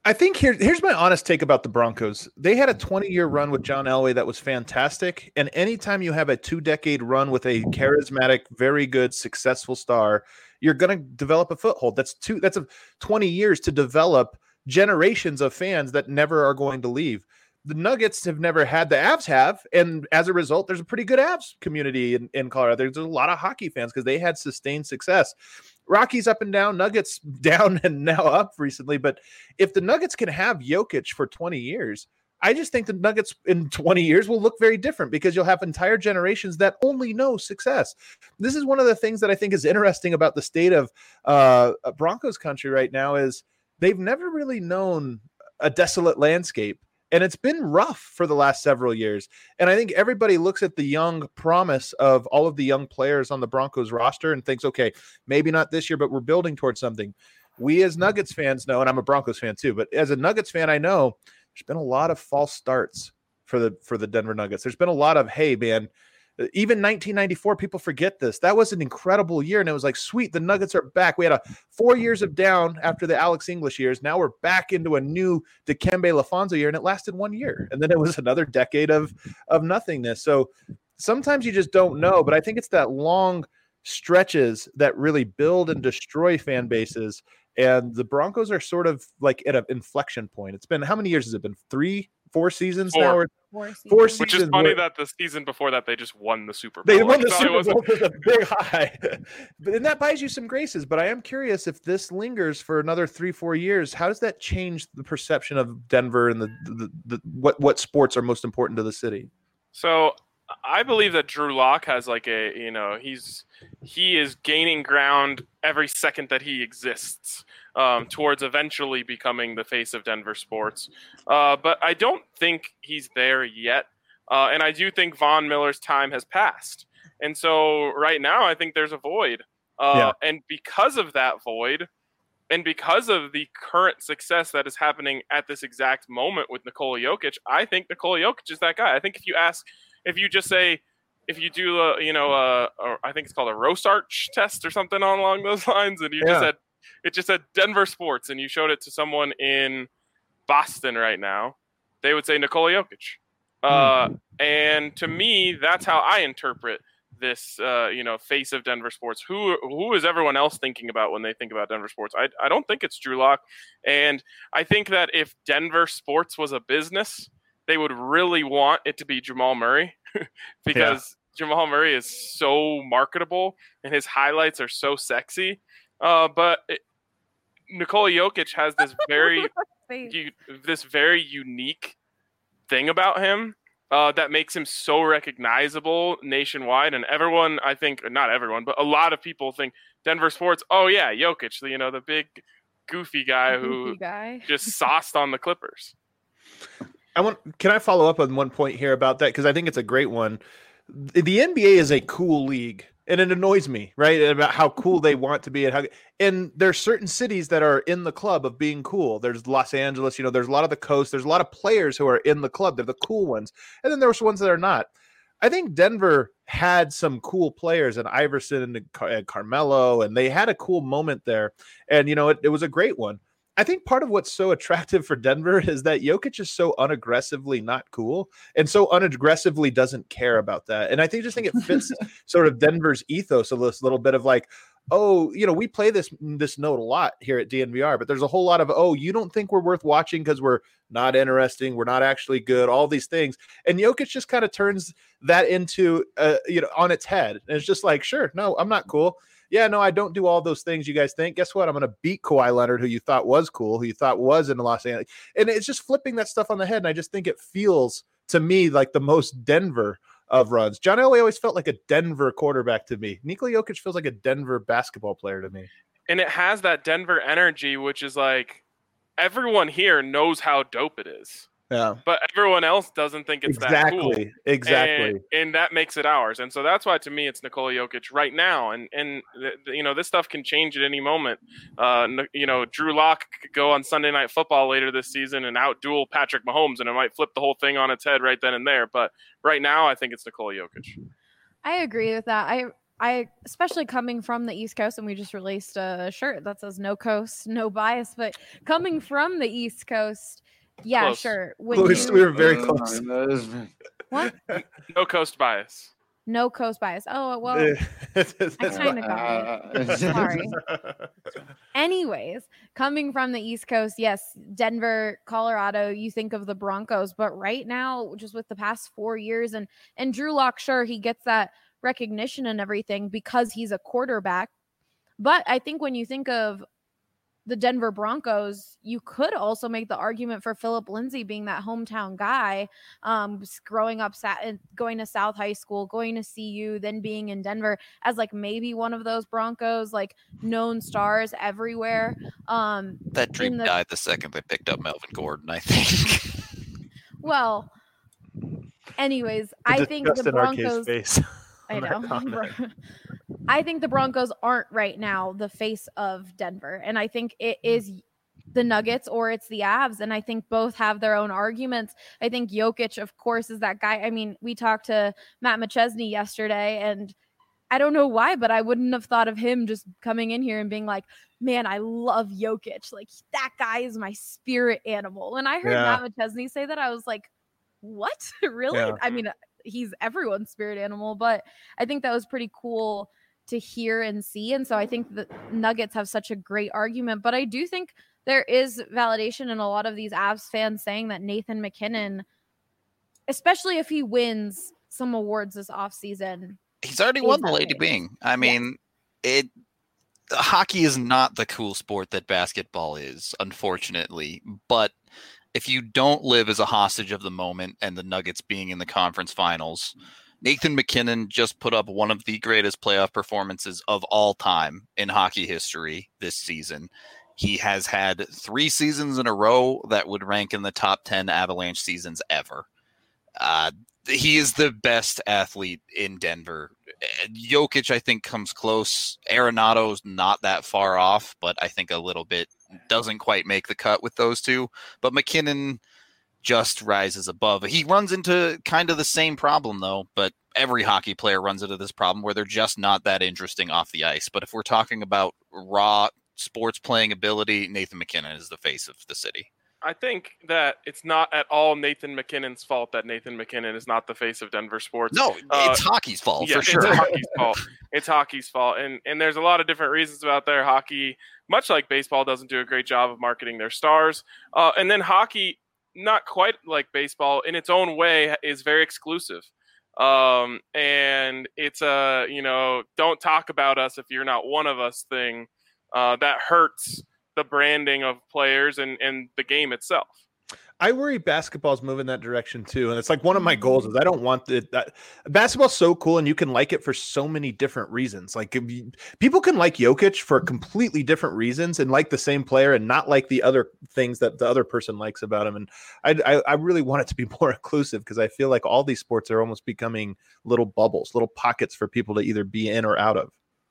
I think here's my honest take about the Broncos. They had a 20-year run with John Elway that was fantastic. And anytime you have a 2-decade run with a charismatic, very good, successful star, you're going to develop a foothold. That's 20 years to develop generations of fans that never are going to leave. The Nuggets have never had, the Avs have, and as a result, there's a pretty good Avs community in Colorado. There's a lot of hockey fans because they had sustained success. Rockies up and down, Nuggets down and now up recently. But if the Nuggets can have Jokic for 20 years, I just think the Nuggets in 20 years will look very different because you'll have entire generations that only know success. This is one of the things that I think is interesting about the state of Broncos country right now is they've never really known a desolate landscape. And it's been rough for the last several years. And I think everybody looks at the young promise of all of the young players on the Broncos roster and thinks, okay, maybe not this year, but we're building towards something. We as Nuggets fans know, and I'm a Broncos fan too, but as a Nuggets fan, I know there's been a lot of false starts for the Denver Nuggets. There's been a lot of, hey, man, even 1994, people forget this. That was an incredible year. And it was like, sweet, the Nuggets are back. We had 4 years of down after the Alex English years. Now we're back into a new Dikembe Lafonso year, and it lasted 1 year. And then it was another decade of nothingness. So sometimes you just don't know. But I think it's that long stretches that really build and destroy fan bases. And the Broncos are sort of like at an inflection point. It's been, how many years has it been? 3-4 seasons now? Or 4 seasons. Which is funny that the season before that they just won the Super Bowl. They won the Super Bowl with a big high. And that buys you some graces. But I am curious if this lingers for another 3-4 years, how does that change the perception of Denver and the what sports are most important to the city? So I believe that Drew Lock has like he is gaining ground every second that he exists towards eventually becoming the face of Denver sports. But I don't think he's there yet. And I do think Von Miller's time has passed. And so right now I think there's a void. And because of that void, and because of the current success that is happening at this exact moment with Nikola Jokic, I think Nikola Jokic is that guy. I think if you do I think it's called a Rosarch test or something along those lines, and it just said Denver sports, and you showed it to someone in Boston right now, they would say Nikola Jokic. And to me, that's how I interpret this, face of Denver sports. Who is everyone else thinking about when they think about Denver sports? I don't think it's Drew Lock. And I think that if Denver sports was a business, they would really want it to be Jamal Murray because Jamal Murray is so marketable and his highlights are so sexy. But Nikola Jokic has this very unique thing about him that makes him so recognizable nationwide. And everyone, I think, not everyone, but a lot of people think Denver sports, oh yeah, Jokic, the big goofy guy who just sauced on the Clippers. Can I follow up on one point here about that? Because I think it's a great one. The NBA is a cool league, and it annoys me, right? About how cool they want to be, and there's certain cities that are in the club of being cool. There's Los Angeles, there's a lot of the coast. There's a lot of players who are in the club. They're the cool ones, and then there's ones that are not. I think Denver had some cool players, and Iverson and Carmelo, and they had a cool moment there, and it was a great one. I think part of what's so attractive for Denver is that Jokic is so unaggressively not cool and so unaggressively doesn't care about that. And I just think it fits sort of Denver's ethos a little bit of like, oh, we play this note a lot here at DNVR, but there's a whole lot of, oh, you don't think we're worth watching because we're not interesting, we're not actually good, all these things. And Jokic just kind of turns that into, on its head. And it's just like, sure, no, I'm not cool. Yeah, no, I don't do all those things you guys think. Guess what? I'm going to beat Kawhi Leonard, who you thought was cool, who you thought was in Los Angeles. And it's just flipping that stuff on the head. And I just think it feels to me like the most Denver of runs. John Elway always felt like a Denver quarterback to me. Nikola Jokic feels like a Denver basketball player to me. And it has that Denver energy, which is like everyone here knows how dope it is. Yeah. But everyone else doesn't think it's that cool. Exactly. And that makes it ours. And so that's why, to me, it's Nikola Jokic right now. And this stuff can change at any moment. Drew Lock could go on Sunday Night Football later this season and outduel Patrick Mahomes, and it might flip the whole thing on its head right then and there. But right now, I think it's Nikola Jokic. I agree with that. especially coming from the East Coast, and we just released a shirt that says "No Coast, No Bias," but coming from the East Coast, yeah, Close. sure. We were very close. What? No coast bias. No Coast Bias. Oh, well, I kind of got it. Sorry. Anyways, coming from the East Coast, yes, Denver, Colorado, you think of the Broncos, but right now, just with the past 4 years, and Drew Lock, sure, he gets that recognition and everything because he's a quarterback. But I think when you think of the Denver Broncos, you could also make the argument for Philip Lindsay being that hometown guy, growing up, going to South High School, going to CU, then being in Denver as like maybe one of those Broncos, like known stars everywhere. That dream died the second they picked up Melvin Gordon, I think. Well, anyways, I think the Broncos. I know. I think the Broncos aren't right now the face of Denver. And I think it is the Nuggets or it's the Avs. And I think both have their own arguments. I think Jokic, of course, is that guy. I mean, we talked to Matt McChesney yesterday, and I don't know why, but I wouldn't have thought of him just coming in here and being like, man, I love Jokic. Like, that guy is my spirit animal. When I heard Matt McChesney say that, I was like, what? Really? Yeah. I mean, he's everyone's spirit animal, but I think that was pretty cool to hear and see. And so I think the Nuggets have such a great argument, but I do think there is validation in a lot of these Avs fans saying that Nathan McKinnon, especially if he wins some awards this offseason. He's already won the Lady Byng. I mean, hockey is not the cool sport that basketball is, unfortunately, but if you don't live as a hostage of the moment and the Nuggets being in the conference finals, Nathan McKinnon just put up one of the greatest playoff performances of all time in hockey history this season. He has had 3 seasons in a row that would rank in the top 10 Avalanche seasons ever. He is the best athlete in Denver. Jokic, I think, comes close. Arenado's not that far off, but I think a little bit doesn't quite make the cut with those two. But McKinnon just rises above. He runs into kind of the same problem, though, but every hockey player runs into this problem where they're just not that interesting off the ice. But if we're talking about raw sports playing ability, Nathan McKinnon is the face of the city. I think that it's not at all Nathan McKinnon's fault that Nathan McKinnon is not the face of Denver sports. No, it's hockey's fault, for sure. It's hockey's fault. It's hockey's fault. And there's a lot of different reasons about there. Hockey, much like baseball, doesn't do a great job of marketing their stars. And then hockey, not quite like baseball, in its own way, is very exclusive. And it's a, don't talk about us if you're not one of us thing that hurts the branding of players and the game itself. I worry basketball's moving that direction too. And it's like one of my goals is I don't want that basketball's so cool and you can like it for so many different reasons. Like people can like Jokic for completely different reasons and like the same player and not like the other things that the other person likes about him. And I really want it to be more inclusive because I feel like all these sports are almost becoming little bubbles, little pockets for people to either be in or out of.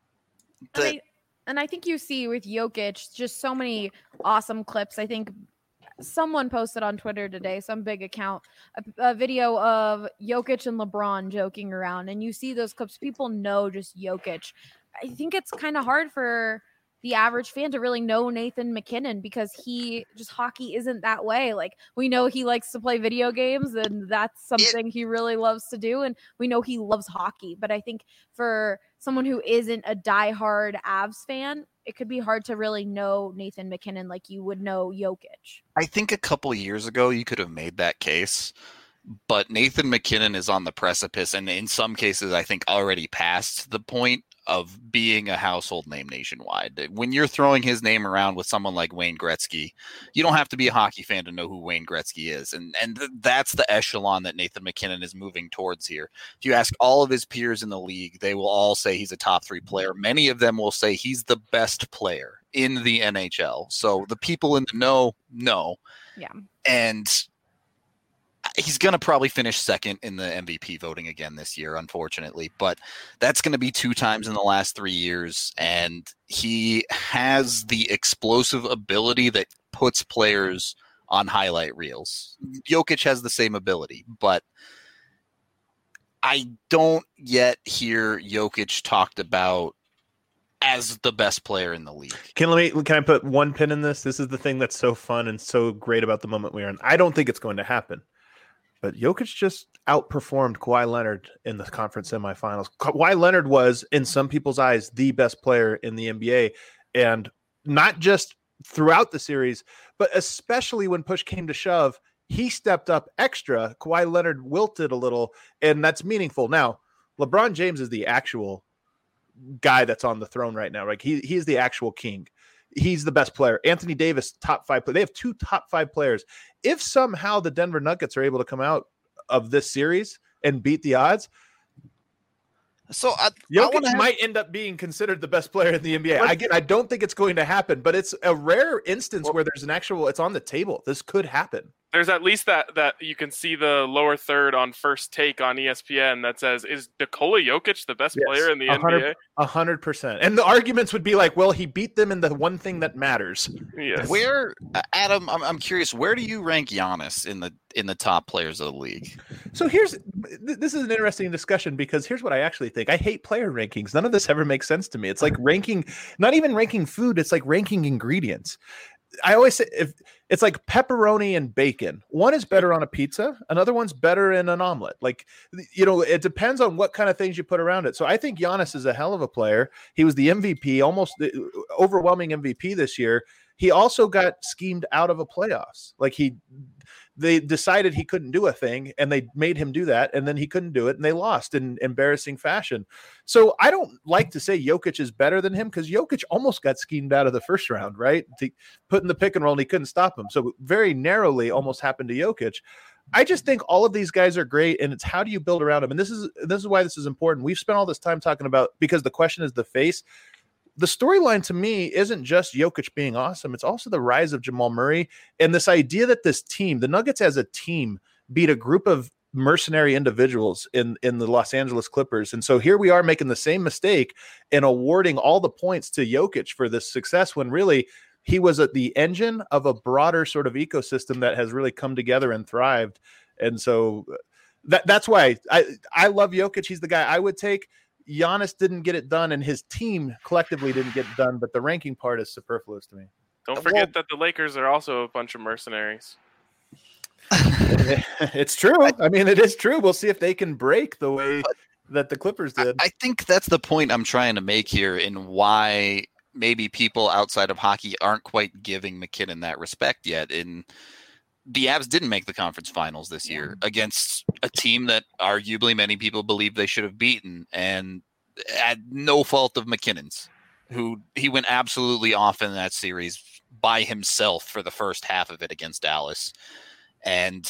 And I think you see with Jokic just so many awesome clips. I think someone posted on Twitter today, some big account, a video of Jokic and LeBron joking around. And you see those clips. People know just Jokic. I think it's kind of hard for the average fan to really know Nathan McKinnon because hockey isn't that way. Like we know he likes to play video games and that's something he really loves to do. And we know he loves hockey, but I think for someone who isn't a diehard Avs fan, it could be hard to really know Nathan McKinnon like you would know Jokic. I think a couple years ago you could have made that case, but Nathan McKinnon is on the precipice and in some cases I think already past the point of being a household name nationwide. When you're throwing his name around with someone like Wayne Gretzky, you don't have to be a hockey fan to know who Wayne Gretzky is. And that's the echelon that Nathan McKinnon is moving towards here. If you ask all of his peers in the league, they will all say he's a top 3 player. Many of them will say he's the best player in the NHL. So the people in the know. Yeah. And he's going to probably finish second in the MVP voting again this year, unfortunately, but that's going to be 2 times in the last 3 years. And he has the explosive ability that puts players on highlight reels. Jokic has the same ability, but I don't yet hear Jokic talked about as the best player in the league. Can I put one pin in this? This is the thing that's so fun and so great about the moment we're in. I don't think it's going to happen, but Jokic just outperformed Kawhi Leonard in the conference semifinals. Kawhi Leonard was, in some people's eyes, the best player in the NBA, and not just throughout the series, but especially when push came to shove, he stepped up extra. Kawhi Leonard wilted a little, and that's meaningful. Now, LeBron James is the actual guy that's on the throne right now. Like he's the actual king. He's the best player. Anthony Davis, top 5 player. They have 2 top 5 players. If somehow the Denver Nuggets are able to come out of this series and beat the odds, so Jokic might end up being considered the best player in the NBA. I don't think it's going to happen, but it's a rare instance where there's it's on the table. This could happen. There's at least that you can see the lower third on First Take on ESPN that says, is Nikola Jokic the best player in the NBA? 100%. And the arguments would be like, well, he beat them in the one thing that matters. Yes. Where, Adam, I'm curious, where do you rank Giannis in the top players of the league? So this is an interesting discussion because here's what I actually think. I hate player rankings. None of this ever makes sense to me. It's like ranking, not even ranking food. It's like ranking ingredients. I always say if it's like pepperoni and bacon, one is better on a pizza, another one's better in an omelet. Like, it depends on what kind of things you put around it. So I think Giannis is a hell of a player. He was the MVP, almost the overwhelming MVP this year. He also got schemed out of a playoffs. Like they decided he couldn't do a thing and they made him do that. And then he couldn't do it and they lost in embarrassing fashion. So I don't like to say Jokic is better than him because Jokic almost got schemed out of the first round, right? To put in the pick and roll and he couldn't stop him. So very narrowly almost happened to Jokic. I just think all of these guys are great and it's how do you build around them? And this is why this is important. We've spent all this time talking about, because the question is the face. The storyline to me isn't just Jokic being awesome. It's also the rise of Jamal Murray and this idea that this team, the Nuggets as a team, beat a group of mercenary individuals in the Los Angeles Clippers. And so here we are making the same mistake and awarding all the points to Jokic for this success when really he was at the engine of a broader sort of ecosystem that has really come together and thrived. And so that's why I love Jokic. He's the guy I would take. Giannis didn't get it done, and his team collectively didn't get it done, but the ranking part is superfluous to me. Don't forget that the Lakers are also a bunch of mercenaries. It's true. I mean, it is true. We'll see if they can break the way that the Clippers did. I think that's the point I'm trying to make here in why maybe people outside of hockey aren't quite giving McKinnon that respect yet. The Avs didn't make the conference finals this year against a team that arguably many people believe they should have beaten, and at no fault of McKinnon's, who he went absolutely off in that series by himself for the first half of it against Dallas. And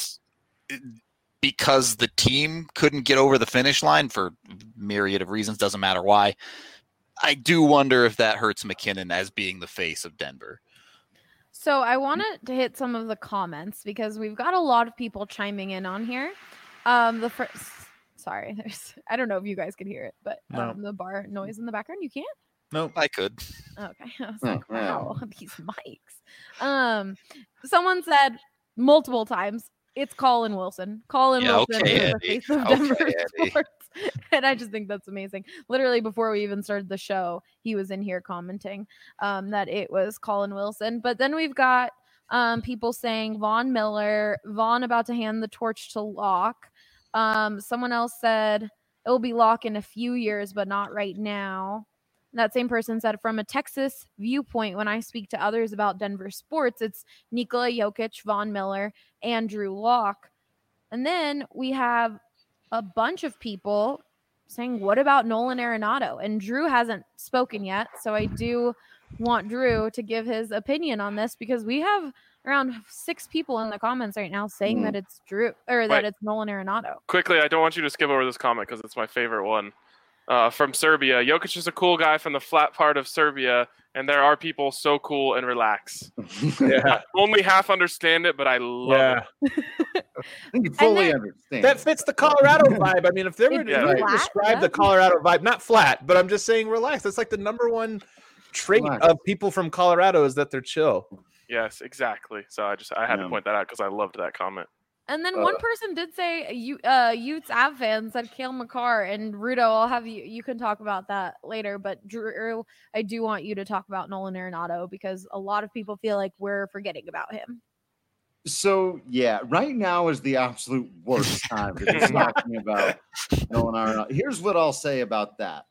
because the team couldn't get over the finish line for myriad of reasons, doesn't matter why, I do wonder if that hurts McKinnon as being the face of Denver. So I wanted to hit some of the comments because we've got a lot of people chiming in on here. The first, sorry, I don't know if you guys could hear it, but the bar noise in the background, you can't? No, I could. Okay, I was like, wow, these mics. Someone said multiple times, it's Colin Wilson. Colin Wilson is the face of Denver sports. And I just think that's amazing. Literally before we even started the show, he was in here commenting that it was Colin Wilson. But then we've got people saying Von Miller, Von about to hand the torch to Locke. Someone else said it'll be Locke in a few years, but not right now. That same person said, from a Texas viewpoint, when I speak to others about Denver sports, it's Nikola Jokic, Von Miller, Andrew Locke. And then we have a bunch of people saying, what about Nolan Arenado? And Drew hasn't spoken yet. So I do want Drew to give his opinion on this because we have around 6 people in the comments right now saying that it's Drew or that it's Nolan Arenado. Quickly, I don't want you to skip over this comment because it's my favorite one. From Serbia, Jokic is a cool guy from the flat part of Serbia, and there are people so cool and relax. I only half understand it, but I love it. You fully understand. That fits the Colorado vibe. I mean, if they were to describe the Colorado vibe, not flat, but I'm just saying relax. That's like the number one trait of people from Colorado is that they're chill. Yes, exactly. So I had to point that out because I loved that comment. And then one person did say Utes Av fans said Cale Makar and Rudo. I'll have you can talk about that later. But Drew, I do want you to talk about Nolan Arenado because a lot of people feel like we're forgetting about him. So yeah, right now is the absolute worst time to be talking about Nolan Arenado. Here's what I'll say about that.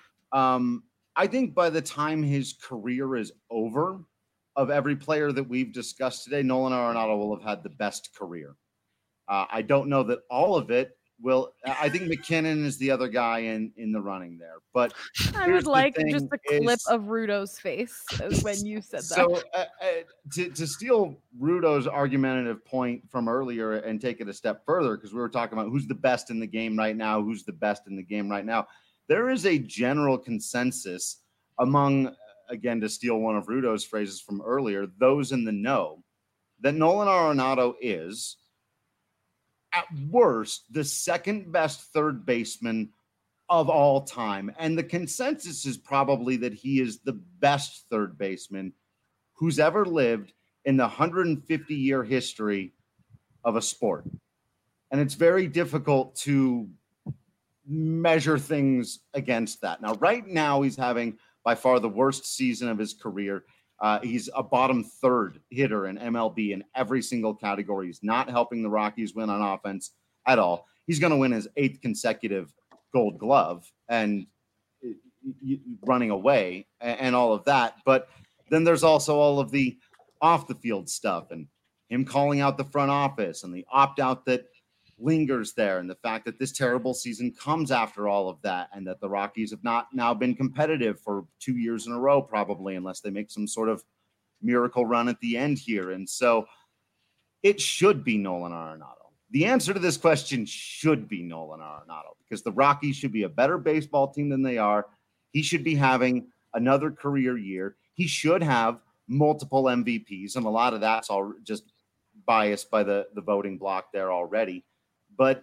I think by the time his career is over, of every player that we've discussed today, Nolan Arenado will have had the best career. I don't know that all of it will. I think McKinnon is the other guy in the running there. But I would like just a clip of Rudo's face when you said that. So to steal Rudo's argumentative point from earlier and take it a step further, because we were talking about who's the best in the game right now, who's the best in the game right now. There is a general consensus among, again, to steal one of Rudo's phrases from earlier, those in the know, that Nolan Arenado is, at worst, the second best third baseman of all time. And the consensus is probably that he is the best third baseman who's ever lived in the 150-year history of a sport. And it's very difficult to measure things against that. Now, right now, he's having by far the worst season of his career. He's a bottom third hitter in MLB in every single category. He's not helping the Rockies win on offense at all. He's going to win his 8th consecutive Gold Glove and running away and all of that. But then there's also all of the off the field stuff and him calling out the front office and the opt out that lingers there, and the fact that this terrible season comes after all of that, and that the Rockies have not now been competitive for 2 years in a row, probably, unless they make some sort of miracle run at the end here. And so it should be Nolan Arenado. The answer to this question should be Nolan Arenado, because the Rockies should be a better baseball team than they are. He should be having another career year. He should have multiple MVPs, and a lot of that's all just biased by the voting block there already. But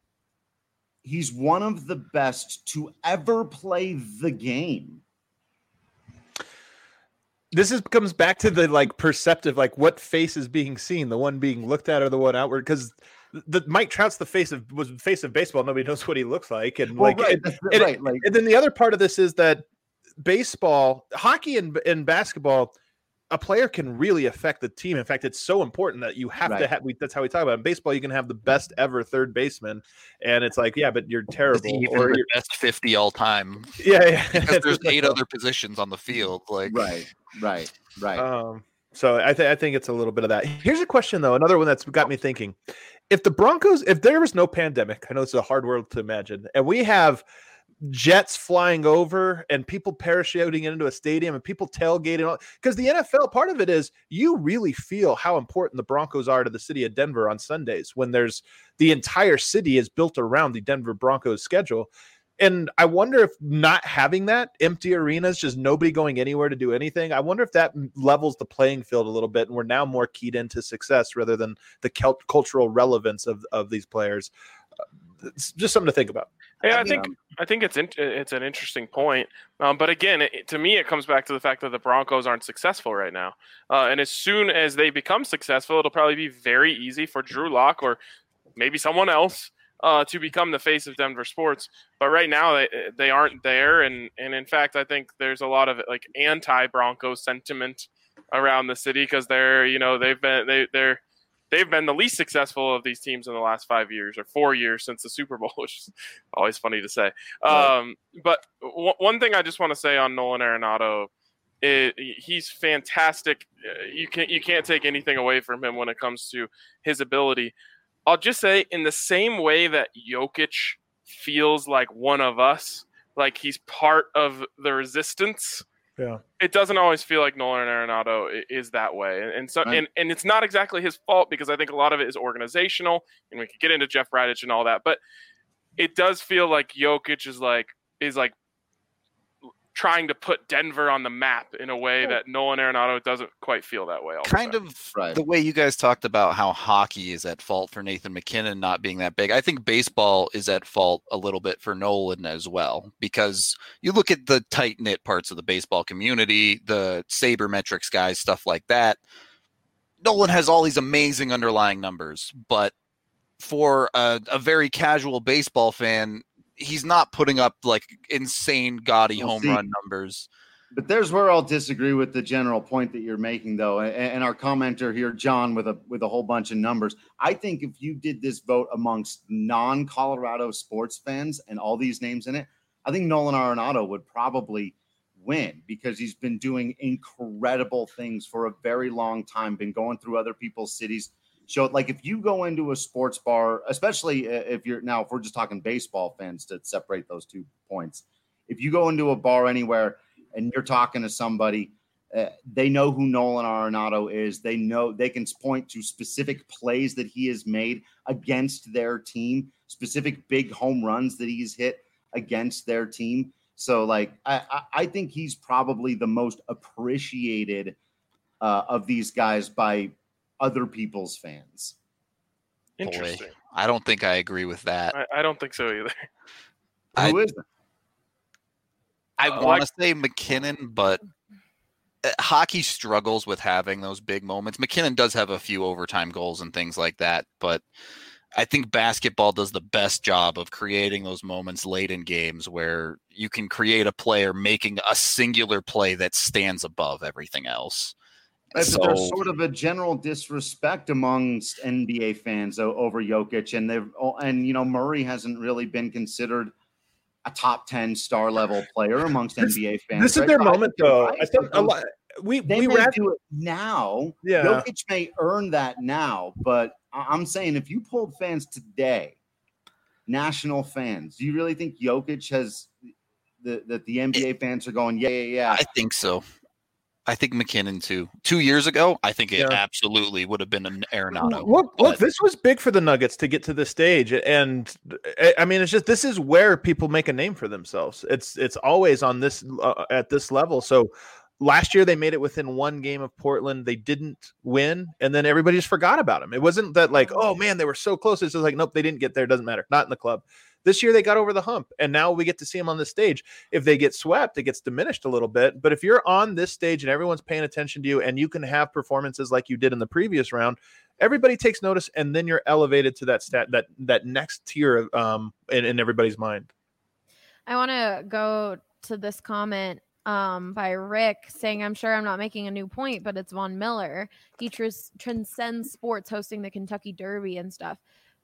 he's one of the best to ever play the game. Comes back to the perceptive, what face is being seen, the one being looked at or the one outward. Because the Mike Trout's the face of baseball. Nobody knows what he looks like, and and then the other part of this is that baseball, hockey, and basketball, a player can really affect the team. In fact, it's so important that you have to have. That's how we talk about it. In baseball, you can have the best ever third baseman, and it's like, yeah, but you're terrible, or you're best 50 all time. Yeah. Because there's 8 other positions on the field. Right. So I think it's a little bit of that. Here's a question though, another one that's got me thinking: if the Broncos, if there was no pandemic, I know it's a hard word to imagine, and we have jets flying over and people parachuting into a stadium and people tailgating, because the NFL, part of it is you really feel how important the Broncos are to the city of Denver on Sundays, when there's the entire city is built around the Denver Broncos schedule. And I wonder if not having that, empty arenas, just nobody going anywhere to do anything, I wonder if that levels the playing field a little bit, and we're now more keyed into success rather than the cultural relevance of these players. It's just something to think about. Yeah, I think it's an interesting point. But again, to me, it comes back to the fact that the Broncos aren't successful right now. And as soon as they become successful, it'll probably be very easy for Drew Lock or maybe someone else to become the face of Denver sports. But right now, they aren't there. And in fact, I think there's a lot of anti-Broncos sentiment around the city, because they've been the least successful of these teams in the last 5 years or 4 years since the Super Bowl, which is always funny to say. Right. But one thing I just want to say on Nolan Arenado is he's fantastic. You can't take anything away from him when it comes to his ability. I'll just say, in the same way that Jokic feels like one of us, like he's part of the resistance. Yeah, it doesn't always feel like Nolan Arenado is that way, and so and it's not exactly his fault, because I think a lot of it is organizational, and we could get into Jeff Bradich and all that, but it does feel like Jokic is like trying to put Denver on the map in a way that Nolan Arenado doesn't quite feel that way. The way you guys talked about how hockey is at fault for Nathan McKinnon not being that big, I think baseball is at fault a little bit for Nolan as well, because you look at the tight-knit parts of the baseball community, the sabermetrics guys, stuff like that. Nolan has all these amazing underlying numbers, but for a very casual baseball fan, he's not putting up like insane gaudy home run numbers. But there's where I'll disagree with the general point that you're making, though. And our commenter here, John, with a whole bunch of numbers. I think if you did this vote amongst non-Colorado sports fans and all these names in it, I think Nolan Arenado would probably win because he's been doing incredible things for a very long time, been going through other people's cities. So, like, if you go into a sports bar, especially if we're just talking baseball fans to separate those 2 points, if you go into a bar anywhere and you're talking to somebody, they know who Nolan Arenado is. They know they can point to specific plays that he has made against their team, specific big home runs that he's hit against their team. So, like, I think he's probably the most appreciated of these guys by other people's fans. Interesting. Boy, I don't think I agree with that. I don't think so either. Who is it? I want to say McKinnon, but hockey struggles with having those big moments. McKinnon does have a few overtime goals and things like that, but I think basketball does the best job of creating those moments late in games where you can create a player making a singular play that stands above everything else. There's sort of a general disrespect amongst NBA fans over Jokic, and Murray hasn't really been considered a top 10 star level player amongst NBA fans. This is their moment, though. I think a lot. We may do it now. Yeah. Jokic may earn that now, but I'm saying if you pulled fans today, national fans, do you really think Jokic has that the NBA fans are going, yeah? I think so. I think McKinnon too. 2 years ago, I think it absolutely would have been an Arenado. Look, this was big for the Nuggets to get to this stage, and I mean, it's just this is where people make a name for themselves. It's always on this at this level. So last year they made it within one game of Portland. They didn't win, and then everybody just forgot about them. It wasn't that like, oh man, they were so close. It's just like, nope, they didn't get there. Doesn't matter. Not in the club. This year they got over the hump, and now we get to see them on this stage. If they get swept, it gets diminished a little bit. But if you're on this stage and everyone's paying attention to you and you can have performances like you did in the previous round, everybody takes notice, and then you're elevated to that next tier in everybody's mind. I want to go to this comment by Rick saying, I'm sure I'm not making a new point, but it's Von Miller. He transcends sports, hosting the Kentucky Derby and stuff.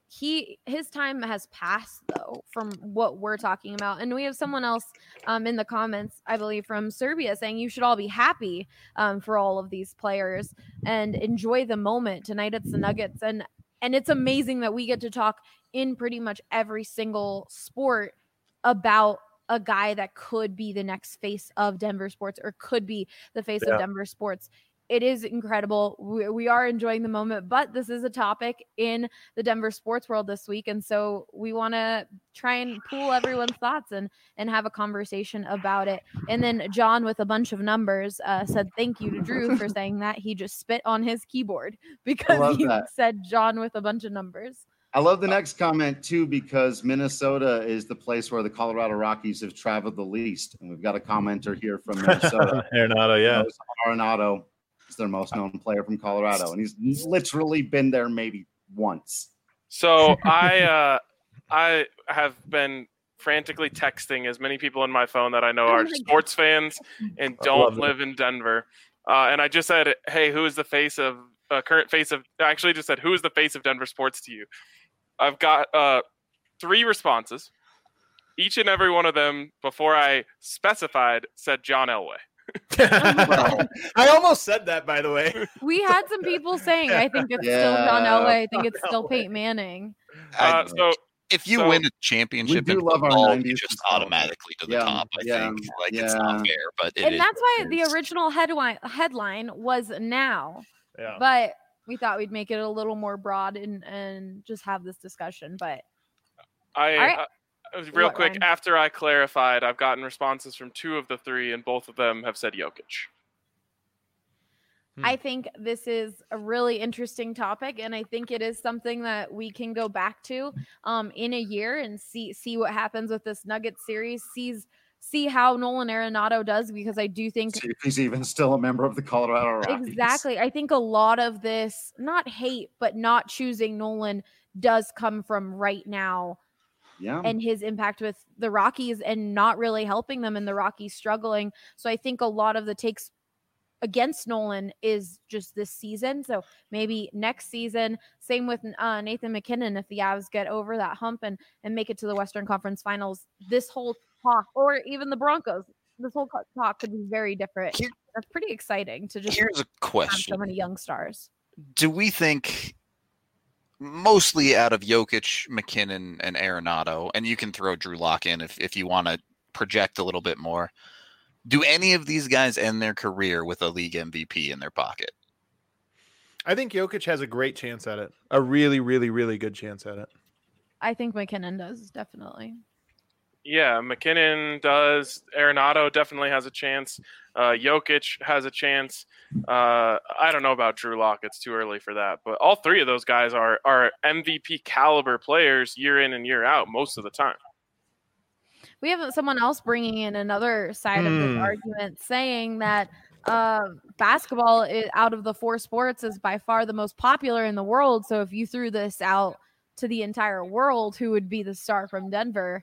His time has passed, though, from what we're talking about. And we have someone else in the comments, I believe, from Serbia saying you should all be happy for all of these players and enjoy the moment. Tonight it's the Nuggets. And it's amazing that we get to talk in pretty much every single sport about a guy that could be the next face of Denver sports or could be the face of Denver sports. It is incredible. We are enjoying the moment, but this is a topic in the Denver sports world this week. And so we want to try and pool everyone's thoughts and have a conversation about it. And then John, with a bunch of numbers, said thank you to Drew for saying that. He just spit on his keyboard because he said John with a bunch of numbers. I love the next comment, too, because Minnesota is the place where the Colorado Rockies have traveled the least. And we've got a commenter here from Minnesota. Arenado, yeah. Arenado is their most known player from Colorado, and he's literally been there maybe once. So I have been frantically texting as many people in my phone that I know are sports fans and don't live in Denver. And I just said, hey, who is the face of current face of – I actually just said, who is the face of Denver sports to you? I've got 3 responses. Each and every one of them, before I specified, said John Elway. I almost said that, by the way. We had some people saying, I think it's still John Elway. I think it's still Peyton Manning. So if you win a championship in football, you just automatically to the top, I think. It's not fair, but that's why the original headline was now. Yeah. But we thought we'd make it a little more broad and just have this discussion. But real quick, Ryan? After I clarified, I've gotten responses from 2 of the 3, and both of them have said Jokic. I think this is a really interesting topic, and I think it is something that we can go back to in a year and see what happens with this Nuggets series, see how Nolan Arenado does, because I do think if he's even still a member of the Colorado Rockies. Exactly. I think a lot of this, not hate, but not choosing Nolan does come from right now. Yeah. And his impact with the Rockies and not really helping them, and the Rockies struggling. So I think a lot of the takes against Nolan is just this season. So maybe next season, same with Nathan McKinnon, if the Avs get over that hump and make it to the Western Conference Finals, this whole talk, or even the Broncos, this whole talk could be very different. That's pretty exciting to just here's a question. Have so many young stars. Do we think, mostly out of Jokic, McKinnon, and Arenado, and you can throw Drew Lock in if you want to project a little bit more, do any of these guys end their career with a league MVP in their pocket? I think Jokic has a great chance at it. A really, really, really good chance at it. I think McKinnon does, definitely. Yeah, McKinnon does. Arenado definitely has a chance. Jokic has a chance. I don't know about Drew Lock. It's too early for that. But all three of those guys are MVP caliber players year in and year out most of the time. We have someone else bringing in another side of this argument, saying that basketball out of the four sports is by far the most popular in the world. So if you threw this out to the entire world, who would be the star from Denver?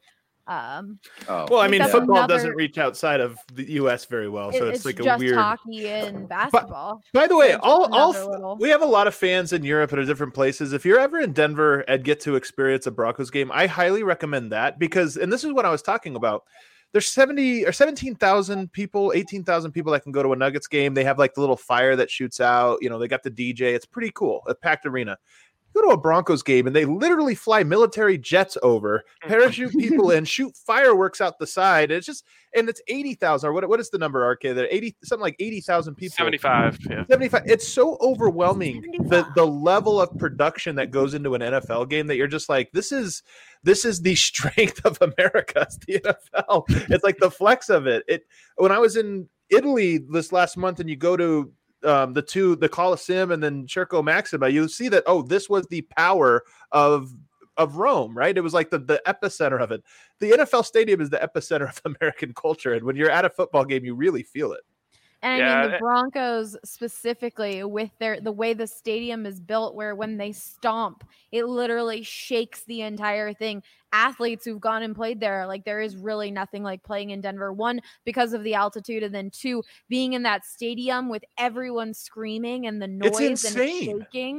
Well, I mean, football doesn't reach outside of the U.S. very well, so it's like a weird. Hockey and basketball. By the way, we have a lot of fans in Europe and different places. If you're ever in Denver and get to experience a Broncos game, I highly recommend that because, and this is what I was talking about. There's 70 or 17,000 people, 18,000 people that can go to a Nuggets game. They have like the little fire that shoots out. You know, they got the DJ. It's pretty cool. A packed arena. Go to a Broncos game and they literally fly military jets over, parachute people in, shoot fireworks out the side. It's just, and it's 80,000 or what is the number, RK? There 80, something like 80,000 people. 75. Yeah. 75. It's so overwhelming the level of production that goes into an NFL game that you're just like, this is the strength of America. It's the NFL. It's like the flex of it. When I was in Italy this last month and you go to the Colosseum and then Circo Maxima, you see that, this was the power of Rome, right? It was like the epicenter of it. The NFL stadium is the epicenter of American culture. And when you're at a football game, you really feel it. And I mean, the Broncos specifically with the way the stadium is built, where when they stomp, it literally shakes the entire thing. Athletes who've gone and played there, like there is really nothing like playing in Denver. One, because of the altitude, and then two, being in that stadium with everyone screaming and the noise and it's shaking.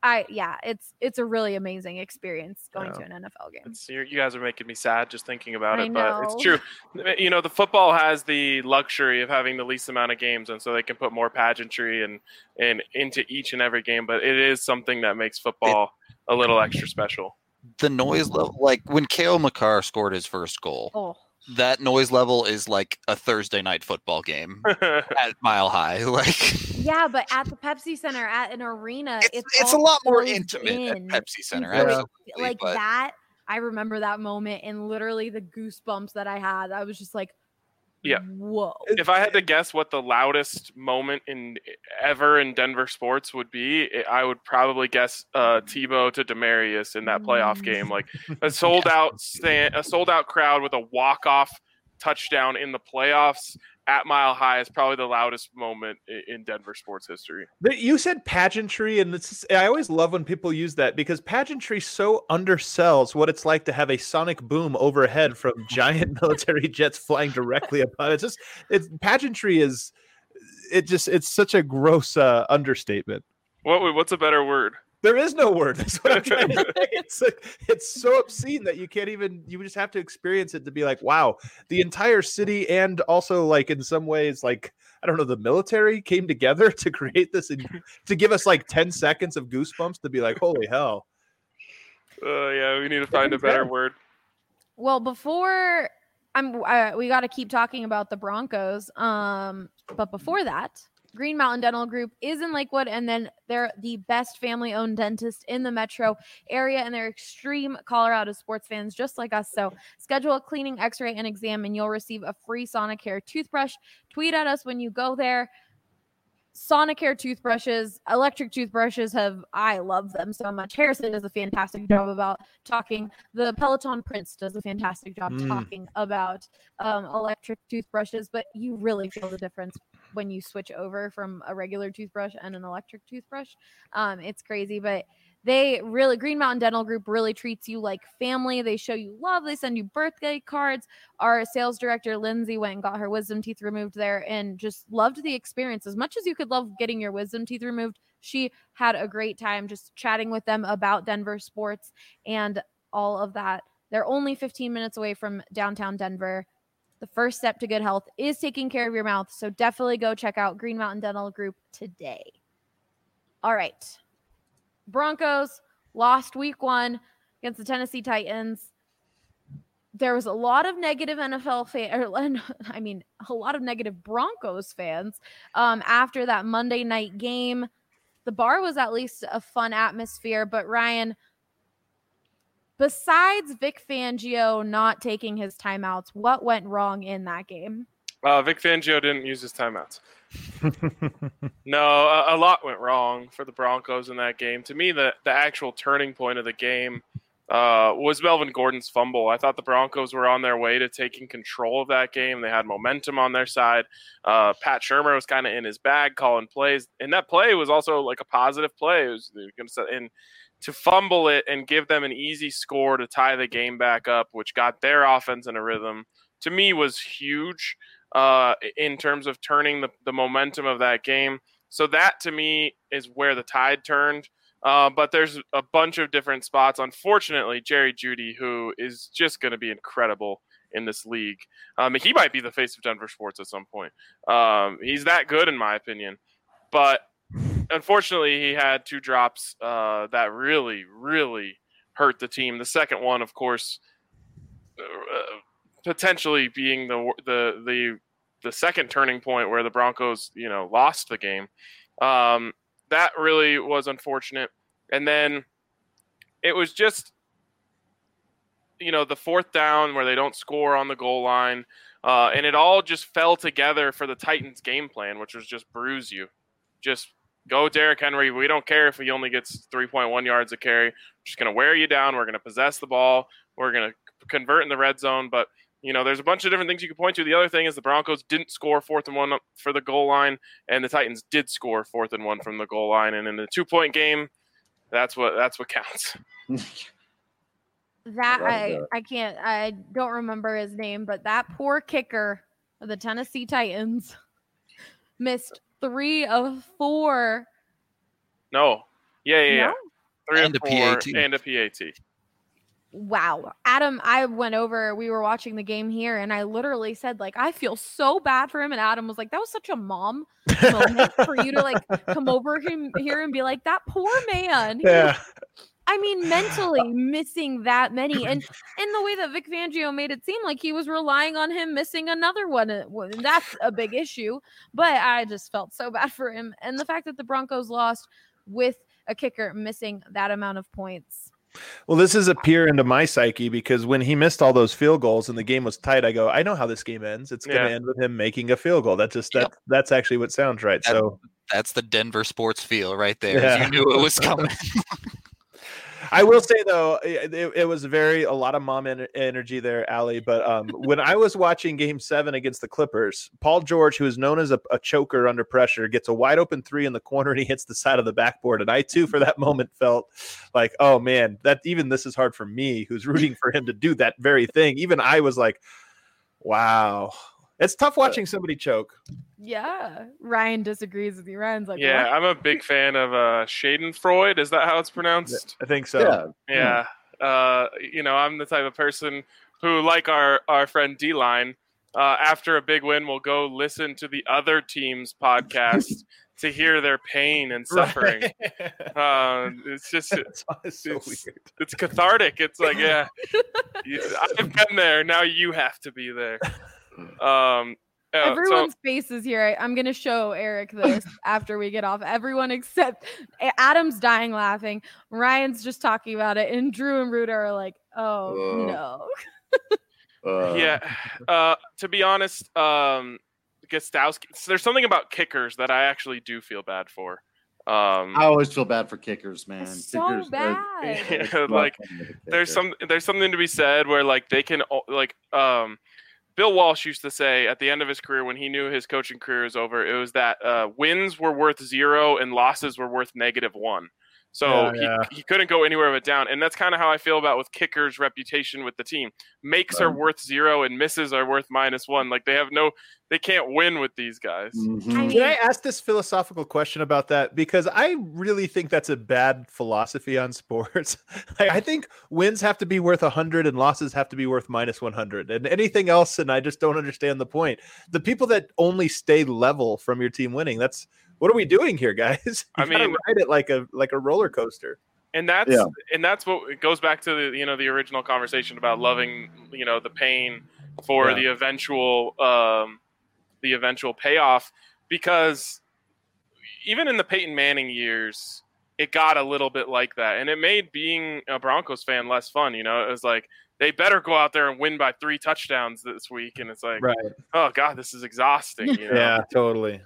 It's a really amazing experience going to an NFL game. You guys are making me sad just thinking about it, but it's true. You know, the football has the luxury of having the least amount of games, and so they can put more pageantry and into each and every game. But it is something that makes football a little extra special. The noise level, like when Cale Makar scored his first goal, that noise level is like a Thursday night football game at Mile High. Yeah, but at the Pepsi Center, at an arena, it's a lot more intimate at Pepsi Center. Absolutely, that. I remember that moment and literally the goosebumps that I had. I was just like, yeah. Whoa. If I had to guess what the loudest moment ever in Denver sports would be, I would probably guess Tebow to Demaryius in that playoff game. Like a sold out crowd with a walk-off touchdown in the playoffs at Mile High is probably the loudest moment in Denver sports history. You said pageantry, and I always love when people use that because pageantry so undersells what it's like to have a sonic boom overhead from giant military jets flying directly upon it. Pageantry is it's such a gross understatement. What's a better word? There is no word. That's what I'm trying to say. It's so obscene that you just have to experience it to be like, wow, the entire city and also like in some ways, like, I don't know, the military came together to create this and to give us like 10 seconds of goosebumps to be like, holy hell. Yeah, we need to find a better word. Well, before we got to keep talking about the Broncos. But before that, Green Mountain Dental Group is in Lakewood, and then they're the best family-owned dentist in the metro area, and they're extreme Colorado sports fans just like us. So schedule a cleaning, x-ray, and exam, and you'll receive a free Sonicare toothbrush. Tweet at us when you go there. Sonicare toothbrushes, electric toothbrushes I love them so much. Harrison does a fantastic job about talking. The Peloton Prince does a fantastic job talking about electric toothbrushes, but you really feel the difference when you switch over from a regular toothbrush and an electric toothbrush. It's crazy, but Green Mountain Dental Group really treats you like family. They show you love. They send you birthday cards. Our sales director, Lindsay, went and got her wisdom teeth removed there and just loved the experience. As much as you could love getting your wisdom teeth removed, she had a great time just chatting with them about Denver sports and all of that. They're only 15 minutes away from downtown Denver. The first step to good health is taking care of your mouth. So definitely go check out Green Mountain Dental Group today. All right. Broncos lost week 1 against the Tennessee Titans. There was a lot of negative a lot of negative Broncos fans after that Monday night game. The bar was at least a fun atmosphere, but Ryan, besides Vic Fangio not taking his timeouts, what went wrong in that game? Vic Fangio didn't use his timeouts. No, a lot went wrong for the Broncos in that game. To me, the actual turning point of the game was Melvin Gordon's fumble. I thought the Broncos were on their way to taking control of that game. They had momentum on their side. Pat Shurmur was kind of in his bag calling plays, and that play was also like a positive play. It was going to set in to fumble it and give them an easy score to tie the game back up, which got their offense in a rhythm, to me was huge in terms of turning the momentum of that game. So that, to me, is where the tide turned. But there's a bunch of different spots. Unfortunately, Jerry Jeudy, who is just going to be incredible in this league. He might be the face of Denver sports at some point. He's that good, in my opinion. But unfortunately, he had 2 drops that really, really hurt the team. The second one, of course, potentially being the second turning point where the Broncos, lost the game. That really was unfortunate. And then it was just, the fourth down where they don't score on the goal line. And it all just fell together for the Titans game plan, which was just bruise you. Just go Derrick Henry. We don't care if he only gets 3.1 yards a carry. We're just going to wear you down. We're going to possess the ball. We're going to convert in the red zone. But, there's a bunch of different things you can point to. The other thing is the Broncos didn't score 4th and 1 for the goal line, and the Titans did score 4th and 1 from the goal line. And in the 2-point game, that's what counts. I don't remember his name, but that poor kicker of the Tennessee Titans missed 3 of 4. No. Yeah. 3 and of 4 and a PAT. Wow. Adam, we were watching the game here, and I literally said, I feel so bad for him. And Adam was like, that was such a mom moment for you to, come over here and be like, that poor man. Yeah. Mentally missing that many. And in the way that Vic Fangio made it seem like he was relying on him missing another one. That's a big issue. But I just felt so bad for him. And the fact that the Broncos lost with a kicker missing that amount of points. Well, this is a peer into my psyche because when he missed all those field goals and the game was tight, I go, I know how this game ends. It's going to end with him making a field goal. That's actually what sounds right. That's the Denver sports feel right there. Yeah. You knew it was coming. I will say, though, it was a lot of mom energy there, Allie. But when I was watching Game 7 against the Clippers, Paul George, who is known as a choker under pressure, gets a wide open 3 in the corner and he hits the side of the backboard. And I, too, for that moment felt like, oh, man, this is hard for me, who's rooting for him to do that very thing. Even I was like, wow. It's tough watching somebody choke. Yeah. Ryan disagrees with you. Ryan's like, yeah, what? I'm a big fan of Schadenfreude. Is that how it's pronounced? I think so. Yeah. I'm the type of person who, like our friend D-Line, after a big win, will go listen to the other team's podcast to hear their pain and suffering. Right. It's weird. It's cathartic. It's like, yeah, I've been there. Now you have to be there. Everyone's faces here. I'm going to show Eric this after we get off. Everyone except Adam's dying laughing. Ryan's just talking about it. And Drew and Ruda are like, oh, no. Yeah. To be honest, Gostowski, there's something about kickers that I actually do feel bad for. I always feel bad for kickers, man. So kickers bad. There's something to be said where they can Bill Walsh used to say at the end of his career when he knew his coaching career was over, it was that wins were worth 0 and losses were worth -1. So he couldn't go anywhere but down. And that's kind of how I feel about with kickers' reputation with the team. Makes are worth 0 and misses are worth -1. Like they can't win with these guys. Mm-hmm. Can I ask this philosophical question about that? Because I really think that's a bad philosophy on sports. I think wins have to be worth 100 and losses have to be worth -100 and anything else. And I just don't understand the point. The people that only stay level from your team winning, what are we doing here, guys? You gotta ride it like a roller coaster. And that's what it goes back to the original conversation about loving, the pain for the eventual payoff, because even in the Peyton Manning years, it got a little bit like that. And it made being a Broncos fan less fun. It was like, they better go out there and win by 3 touchdowns this week. And it's like, oh God, this is exhausting. Yeah, totally.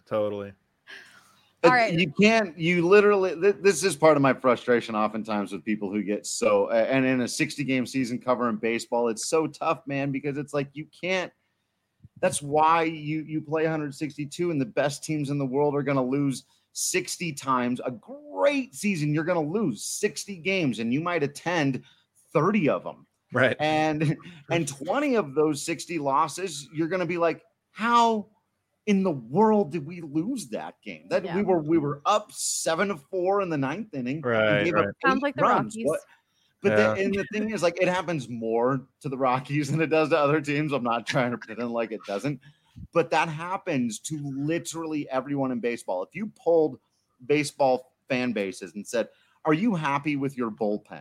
All right. You literally, this is part of my frustration oftentimes with people who get so, and in a 60-game season covering baseball, it's so tough, man, because it's like, you can't, that's why you play 162 and the best teams in the world are going to lose 60 times. A great season, you're going to lose 60 games and you might attend 30 of them. Right. And 20 of those 60 losses, you're going to be like, how in the world did we lose that game? We were up 7-4 in the 9th inning. Right. Sounds like the Rockies. But and the thing is, like, it happens more to the Rockies than it does to other teams. I'm not trying to pretend like it doesn't, but that happens to literally everyone in baseball. If you polled baseball fan bases and said, "Are you happy with your bullpen?"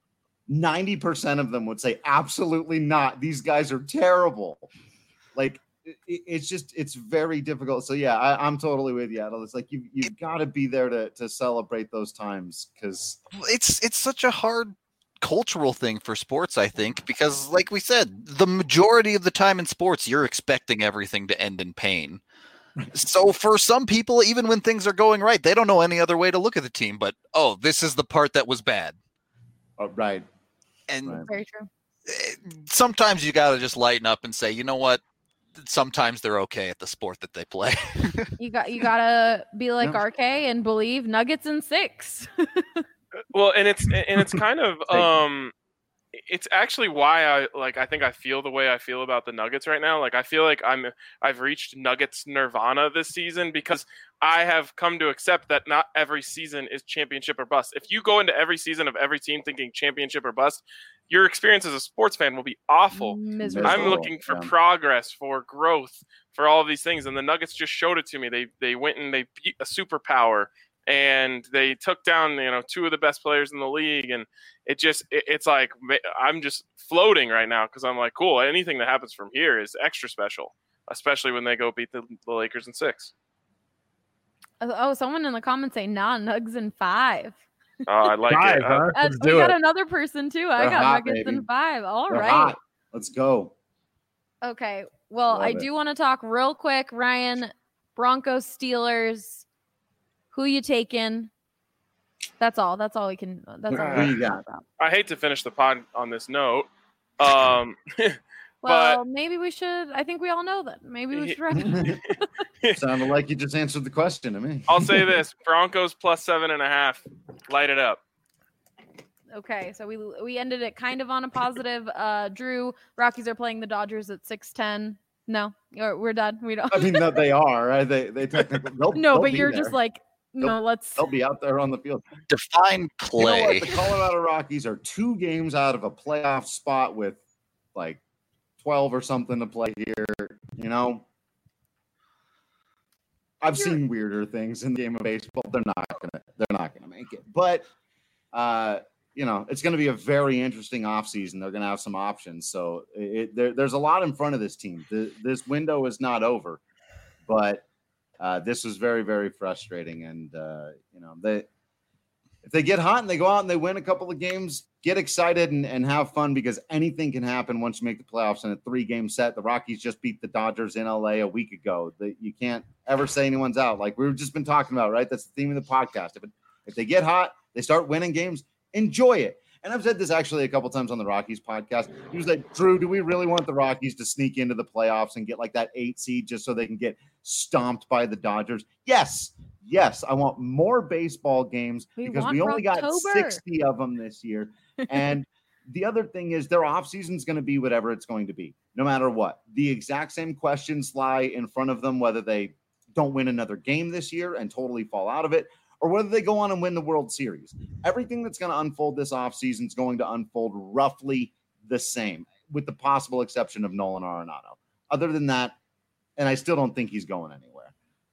90% of them would say, "Absolutely not. These guys are terrible." Like, it's very difficult. So yeah, I'm totally with you, Adel. It's like you've got to be there to celebrate those times, because it's such a hard cultural thing for sports, I think, because like we said, the majority of the time in sports, you're expecting everything to end in pain. So for some people, even when things are going right, they don't know any other way to look at the team, but, oh, this is the part that was bad. Oh, right. And very true. Sometimes you got to just lighten up and say, you know what? Sometimes they're okay at the sport that they play. You gotta be like RK and believe Nuggets in 6. Well, and it's kind of it's actually why I think I feel the way I feel about the Nuggets right now. Like, I feel like I've reached Nuggets nirvana this season, because I have come to accept that not every season is championship or bust. If you go into every season of every team thinking championship or bust, your experience as a sports fan will be awful. Miserable. I'm looking for progress, for growth, for all of these things. And the Nuggets just showed it to me. They went and they beat a superpower, and they took down, 2 of the best players in the league. And it's like, I'm just floating right now, because I'm like, cool, anything that happens from here is extra special, especially when they go beat the Lakers in 6. Oh, someone in the comments say, Nugs in 5. Oh, I like 5, it. Huh? We got another person too. I got hot, Nuggets baby. in 5. All They're right. hot. Let's go. Okay. Well, I do want to talk real quick, Ryan. Broncos, Steelers. Who you taking? That's all. That's all we can. That's all. Who you got? I hate to finish the pod on this note. Well, maybe we should. I think we all know that. Maybe we should. Sounded like you just answered the question to me. I'll say this: Broncos plus 7.5. Light it up. Okay, so we ended it kind of on a positive. Drew, Rockies are playing the Dodgers at 6:10. No, we're done. We don't. I mean, no, they are. Right? They technically. No, but you're just like, no. They'll be out there on the field. Define play. You know what? The Colorado Rockies are 2 games out of a playoff spot with like 12 or something to play here. I've seen weirder things in the game of baseball. They're not gonna make it. But it's going to be a very interesting offseason. They're going to have some options. So there's a lot in front of this team. This window is not over, but this was very, very frustrating. And, if they get hot and they go out and they win a couple of games, get excited and have fun, because anything can happen once you make the playoffs in a 3-game set. The Rockies just beat the Dodgers in LA a week ago. You can't ever say anyone's out. Like we've just been talking about, right? That's the theme of the podcast. If they get hot, they start winning games, enjoy it. And I've said this actually a couple times on the Rockies podcast. He was like, Drew, do we really want the Rockies to sneak into the playoffs and get like that 8 seed just so they can get stomped by the Dodgers? Yes. I want more baseball games because we only got 60 of them this year. And the other thing is their offseason is going to be whatever it's going to be, no matter what. The exact same questions lie in front of them, whether they don't win another game this year and totally fall out of it, or whether they go on and win the World Series. Everything that's going to unfold this offseason is going to unfold roughly the same, with the possible exception of Nolan Arenado. Other than that, and I still don't think he's going anywhere.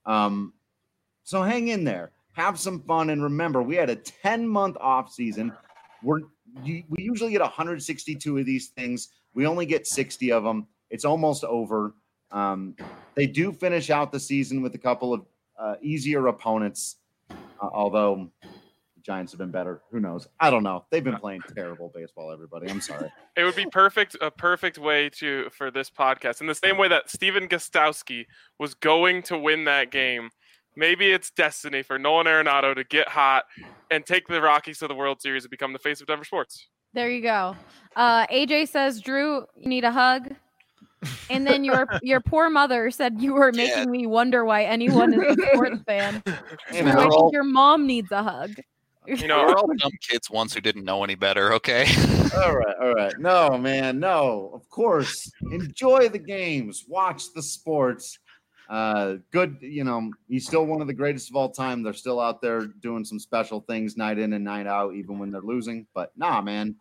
So hang in there. Have some fun. And remember, we had a 10-month offseason. We usually get 162 of these things. We only get 60 of them. It's almost over. They do finish out the season with a couple of easier opponents, although the Giants have been better. Who knows? I don't know. They've been playing terrible baseball, everybody. I'm sorry. It would be a perfect way for this podcast. In the same way that Steven Gostowski was going to win that game, maybe it's destiny for Nolan Arenado to get hot and take the Rockies to the World Series and become the face of Denver sports. There you go. AJ says, Drew, you need a hug. And then your poor mother said you were making me wonder why anyone is a sports fan. I think your mom needs a hug. You know, we're all dumb kids once who didn't know any better, okay? All right. No, man, no. Of course. Enjoy the games. Watch the sports. Good, he's still one of the greatest of all time. They're still out there doing some special things night in and night out, even when they're losing. But nah, man.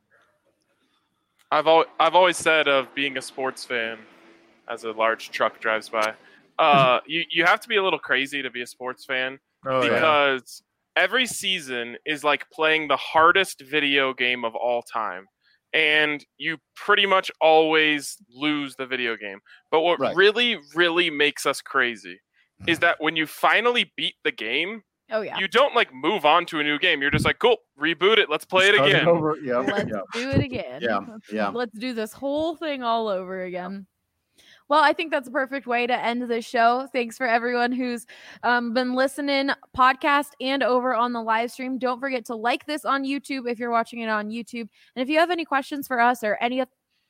I've always said of being a sports fan, as a large truck drives by, you have to be a little crazy to be a sports fan because every season is like playing the hardest video game of all time. And you pretty much always lose the video game. But what really, really makes us crazy is that when you finally beat the game, you don't like move on to a new game. You're just like, cool, reboot it. Let's play it again. Let's do it again. Let's do this whole thing all over again. Well, I think that's a perfect way to end the show. Thanks for everyone who's been listening, podcast and over on the live stream. Don't forget to like this on YouTube if you're watching it on YouTube. And if you have any questions for us or any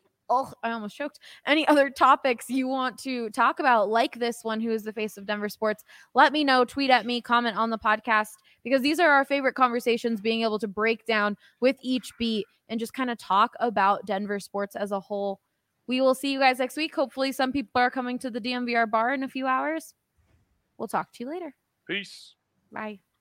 other topics you want to talk about, like this one, who is the face of Denver sports, let me know, tweet at me, comment on the podcast, because these are our favorite conversations, being able to break down with each beat and just kind of talk about Denver sports as a whole. We will see you guys next week. Hopefully some people are coming to the DNVR bar in a few hours. We'll talk to you later. Peace. Bye.